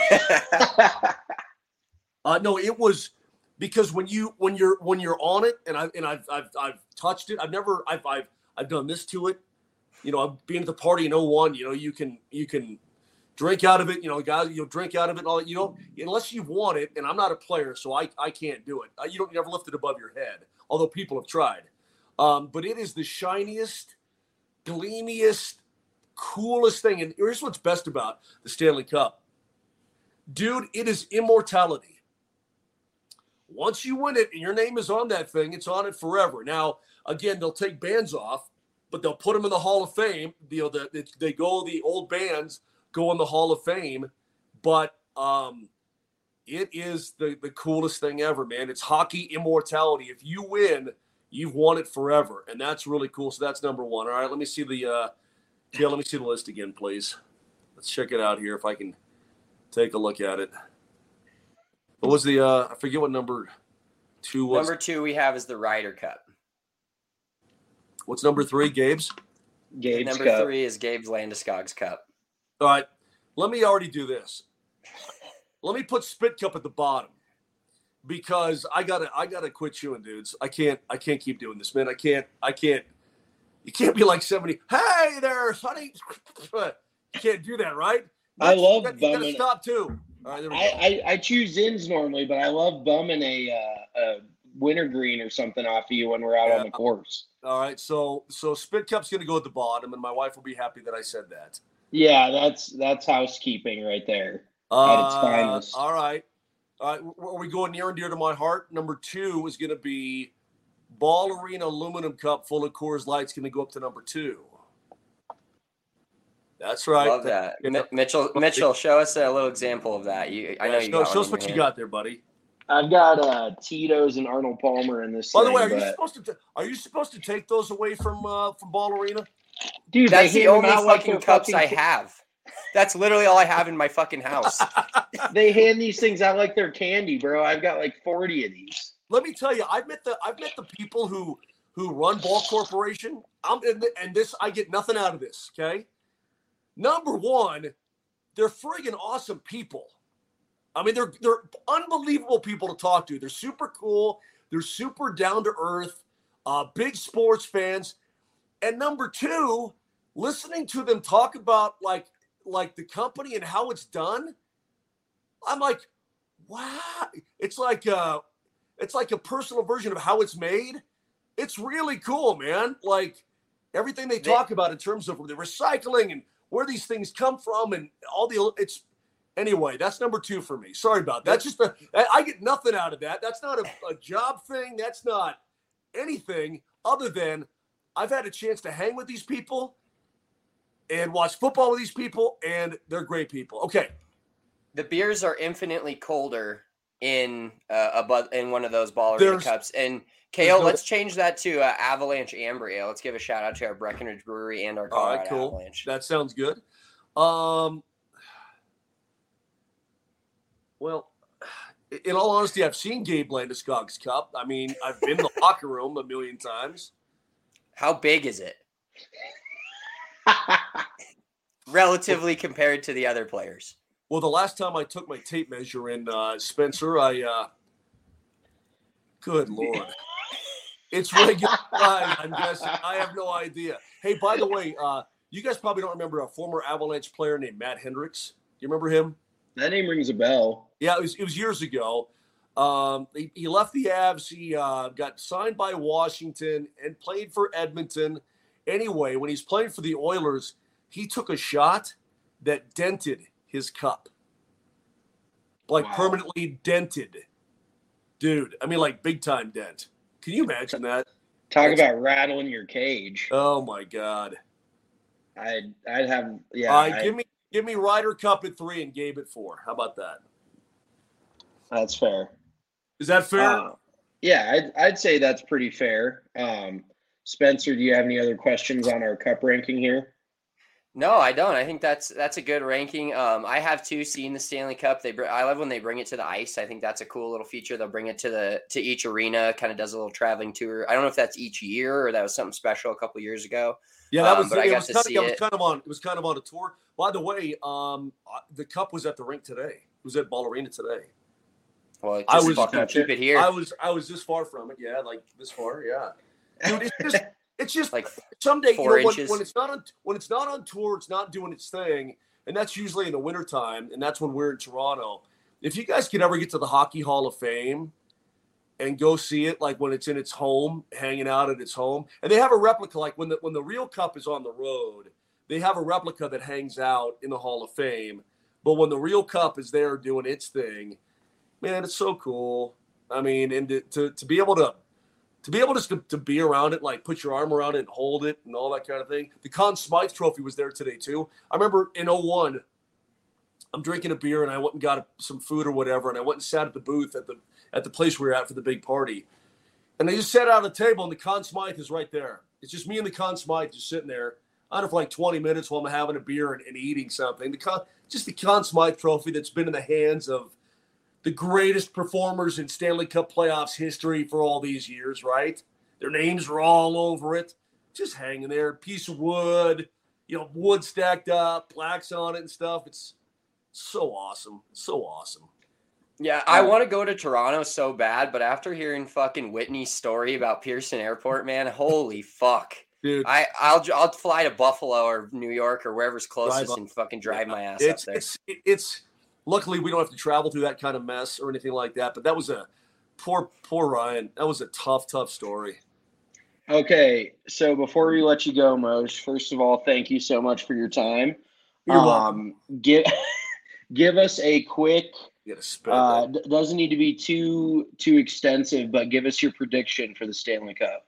No, it was because when you're on it, and I've touched it. I've done this to it. You know, I've been at the party in 01. You know, you can drink out of it. You know, guys, you'll drink out of it and all that. You know, unless you want it, and I'm not a player, so I can't do it. You never lift it above your head, although people have tried. But it is the shiniest, gleamiest, coolest thing. And here's what's best about the Stanley Cup. Dude, it is immortality. Once you win it and your name is on that thing, it's on it forever. Now, again, they'll take bands off, but they'll put them in the Hall of Fame. The old bands go in the Hall of Fame, but it is the coolest thing ever, man. It's hockey immortality. If you win, you've won it forever, and that's really cool. So that's number 1. All right, let me see the list again, please. Let's check it out here if I can take a look at it. What was the I forget what number 2 was. Number 2 we have is the Ryder Cup. What's number 3, Gabe's? Gabe's Number Cup. 3 is Gabe's Landeskog's Cup. All right, let me already do this. Let me put Spit Cup at the bottom because I gotta quit chewing, dudes. I can't keep doing this, man. I can't. You can't be like 70. Hey there, sonny. You can't do that, right? I love you bumming. gotta stop too. All right, there we go. I choose Zins normally, but I love bumming a wintergreen or something off of you when we're out on the course. All right, so Spit Cup's gonna go at the bottom, and my wife will be happy that I said that. Yeah, that's housekeeping right there at its finest. All right. Are we going near and dear to my heart? Number 2 is gonna be Ball Arena Aluminum Cup full of Coors Light's going to go up to number 2. That's right. Love that. Mitchell, show us a little example of that. I know you got show us what you got there, buddy. I've got Tito's and Arnold Palmer in this. By the way, are you supposed to take those away from Ball Arena? Dude, that's the only fucking cups I have. That's literally all I have in my fucking house. They hand these things out like they're candy, bro. I've got like 40 of these. Let me tell you, I've met the people who run Ball Corporation. And this, I get nothing out of this. Okay, number one, they're friggin' awesome people. I mean, they're unbelievable people to talk to. They're super cool. They're super down to earth. Big sports fans. And number two, listening to them talk about like the company and how it's done, I'm like, wow. It's like a personal version of how it's made. It's really cool, man. Like everything they talk about in terms of the recycling and where these things come from and all it's. Anyway, that's number two for me. Sorry about that. Just I get nothing out of that. That's not a job thing. That's not anything other than I've had a chance to hang with these people and watch football with these people, and they're great people. Okay. The beers are infinitely colder in one of those Ball Arena cups. And Kale, let's change that to Avalanche Amber Ale. Let's give a shout out to our Breckenridge Brewery and our Colorado Avalanche. That sounds good. Well, in all honesty, I've seen Gabe Landeskog's cup. I mean, I've been in the locker room a million times. How big is it? Relatively compared to the other players. Well, the last time I took my tape measure in Spencer, good Lord. It's regular size, I'm guessing. I have no idea. Hey, by the way, you guys probably don't remember a former Avalanche player named Matt Hendricks. You remember him? That name rings a bell. Yeah, it was years ago. He left the Avs. He got signed by Washington and played for Edmonton. Anyway, when he's playing for the Oilers, he took a shot that dented his cup. Like permanently dented. Dude, I mean like big time dent. Can you imagine that? Talk about rattling your cage. Oh my God. I'd have Give me Ryder Cup at 3 and Gabe at 4. How about that? That's fair. Is that fair? Yeah, I'd say that's pretty fair. Spencer, do you have any other questions on our cup ranking here? No, I don't. I think that's a good ranking. I have too seen the Stanley Cup. I love when they bring it to the ice. I think that's a cool little feature. They'll bring it to each arena. Kind of does a little traveling tour. I don't know if that's each year or that was something special a couple years ago. Yeah, that was. But I got to see it. It was kind of on a tour. By the way, the cup was at the rink today. It was at Ball Arena today. Well, fucking keep it here. I was this far from it. Yeah, like this far. Yeah, dude, it's just like someday when it's not on tour, it's not doing its thing, and that's usually in the wintertime, and that's when we're in Toronto. If you guys could ever get to the Hockey Hall of Fame and go see it, like when it's in its home, hanging out at its home, and they have a replica, like when the real cup is on the road, they have a replica that hangs out in the Hall of Fame. But when the real cup is there doing its thing, man, it's so cool. I mean, and to be able to be around it, like put your arm around it and hold it and all that kind of thing. The Conn Smythe Trophy was there today too. I remember in 2001, I'm drinking a beer and I went and got some food or whatever, and I went and sat at the booth at the place we were at for the big party. And they just sat out at a table, and the Conn Smythe is right there. It's just me and the Conn Smythe just sitting there, I don't know, for like 20 minutes while I'm having a beer and eating something. The Conn Smythe Trophy that's been in the hands of the greatest performers in Stanley Cup playoffs history for all these years, right? Their names are all over it. Just hanging there, piece of wood, wood stacked up, plaques on it and stuff. It's so awesome. So awesome. Yeah, I want to go to Toronto so bad, but after hearing fucking Whitney's story about Pearson Airport, man, holy fuck. Dude, I'll fly to Buffalo or New York or wherever's closest and fucking drive my ass up there. It's luckily we don't have to travel through that kind of mess or anything like that, but that was a poor Ryan. That was a tough story. Okay, so before we let you go, Moshe, first of all, thank you so much for your time. You're welcome. Give us a quick doesn't need to be too extensive, but give us your prediction for the Stanley Cup.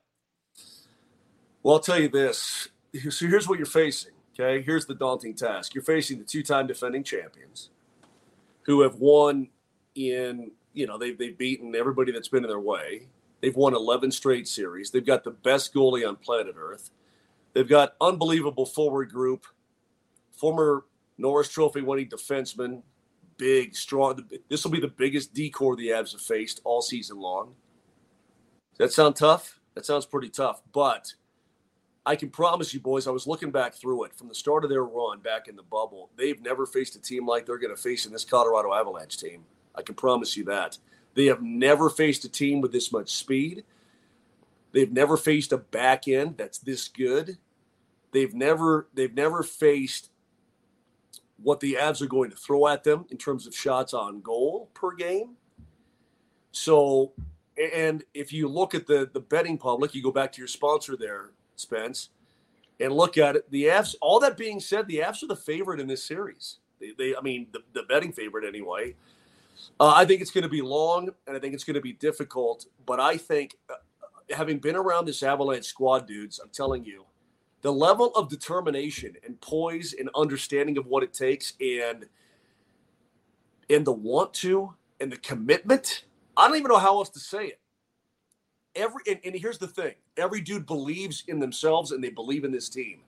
Well, I'll tell you this. So here's what you're facing, okay? Here's the daunting task. You're facing the two-time defending champions who have won they've beaten everybody that's been in their way. They've won 11 straight series. They've got the best goalie on planet Earth. They've got unbelievable forward group, former Norris Trophy winning defenseman, big, strong. This will be the biggest D-corps the Avs have faced all season long. Does that sound tough? That sounds pretty tough. But I can promise you, boys, I was looking back through it from the start of their run back in the bubble. They've never faced a team like they're going to face in this Colorado Avalanche team. I can promise you that. They have never faced a team with this much speed. They've never faced a back end that's this good. They've never faced what the Avs are going to throw at them in terms of shots on goal per game. So, and if you look at the betting public, you go back to your sponsor there, Spence, and look at it. The Avs, all that being said, the Avs are the favorite in this series. The betting favorite anyway. I think it's going to be long, and I think it's going to be difficult. But I think, having been around this Avalanche squad, dudes, I'm telling you, the level of determination and poise and understanding of what it takes and the want to and the commitment, I don't even know how else to say it. And here's the thing. Every dude believes in themselves and they believe in this team.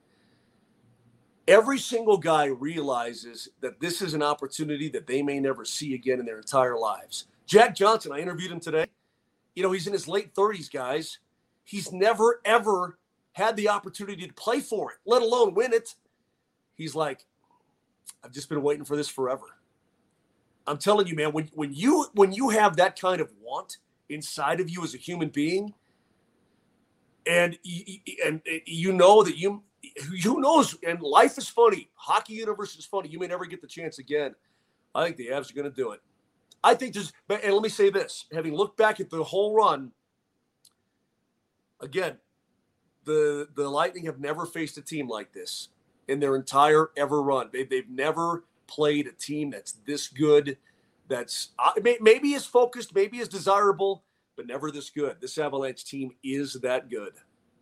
Every single guy realizes that this is an opportunity that they may never see again in their entire lives. Jack Johnson, I interviewed him today. He's in his late 30s, guys. He's never, ever had the opportunity to play for it, let alone win it. He's like, I've just been waiting for this forever. I'm telling you, man, when you have that kind of want inside of you as a human being, and you know that who knows, and life is funny. Hockey universe is funny. You may never get the chance again. I think the Avs are going to do it. I think and let me say this, having looked back at the whole run, again, the Lightning have never faced a team like this in their entire ever run. They've never played a team that's this good, that's maybe as focused, maybe as desirable, but never this good. This Avalanche team is that good.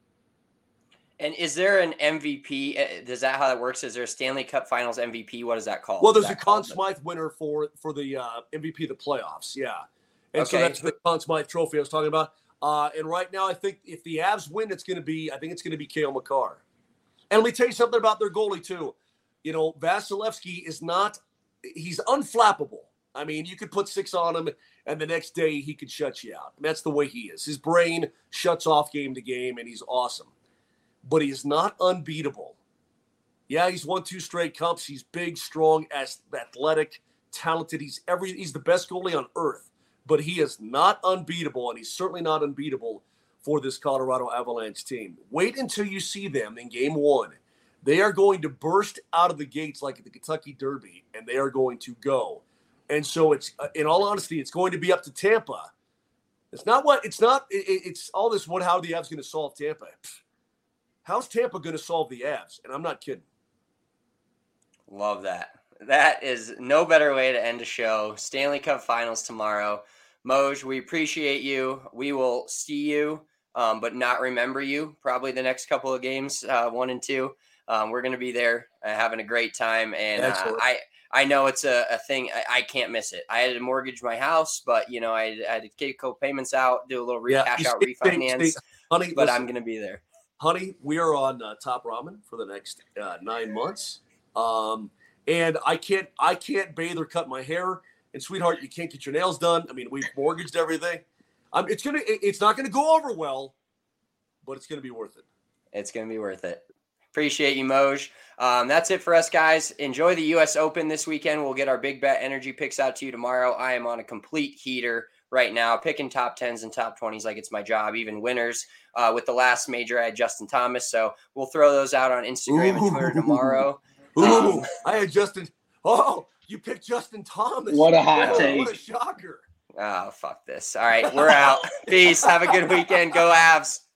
And is there an MVP? Is that how that works? Is there a Stanley Cup Finals MVP? What is that called? Well, there's a Conn Smythe winner for the MVP of the playoffs, yeah. And okay. So that's the Conn Smythe trophy I was talking about. And right now, I think if the Avs win, it's going to be Cale Makar. And let me tell you something about their goalie too. Vasilevsky he's unflappable. I mean, you could put 6 on him, and the next day he could shut you out. And that's the way he is. His brain shuts off game to game, and he's awesome. But he is not unbeatable. Yeah, he's won 2 straight cups. He's big, strong, athletic, talented. He's the best goalie on earth. But he is not unbeatable, and he's certainly not unbeatable for this Colorado Avalanche team. Wait until you see them in Game 1. They are going to burst out of the gates like at the Kentucky Derby, and they are going to go. And so it's, in all honesty, it's going to be up to Tampa. It's all this, how are the Avs going to solve Tampa? How's Tampa going to solve the Avs? And I'm not kidding. Love that. That is no better way to end a show. Stanley Cup Finals tomorrow. Moj, we appreciate you. We will see you, but not remember you. Probably the next couple of games, 1 and 2. We're going to be there having a great time. And I know it's a thing. I can't miss it. I had to mortgage my house, but, I had to take co-payments out, do a little cash out refinance. Honey, but listen, I'm going to be there. Honey, we are on Top Ramen for the next 9 months. And I can't bathe or cut my hair. And sweetheart, you can't get your nails done. I mean, we've mortgaged everything. It's not gonna go over well, but it's gonna be worth it. It's gonna be worth it. Appreciate you, Moj. That's it for us, guys. Enjoy the U.S. Open this weekend. We'll get our big bet energy picks out to you tomorrow. I am on a complete heater right now, picking top 10s and top 20s like it's my job, even winners. With the last major, I had Justin Thomas, so we'll throw those out on Instagram and Twitter tomorrow. I had Justin. Oh, you picked Justin Thomas. What a hot take. What a shocker. Oh, fuck this. All right, we're out. Peace. Have a good weekend. Go Avs.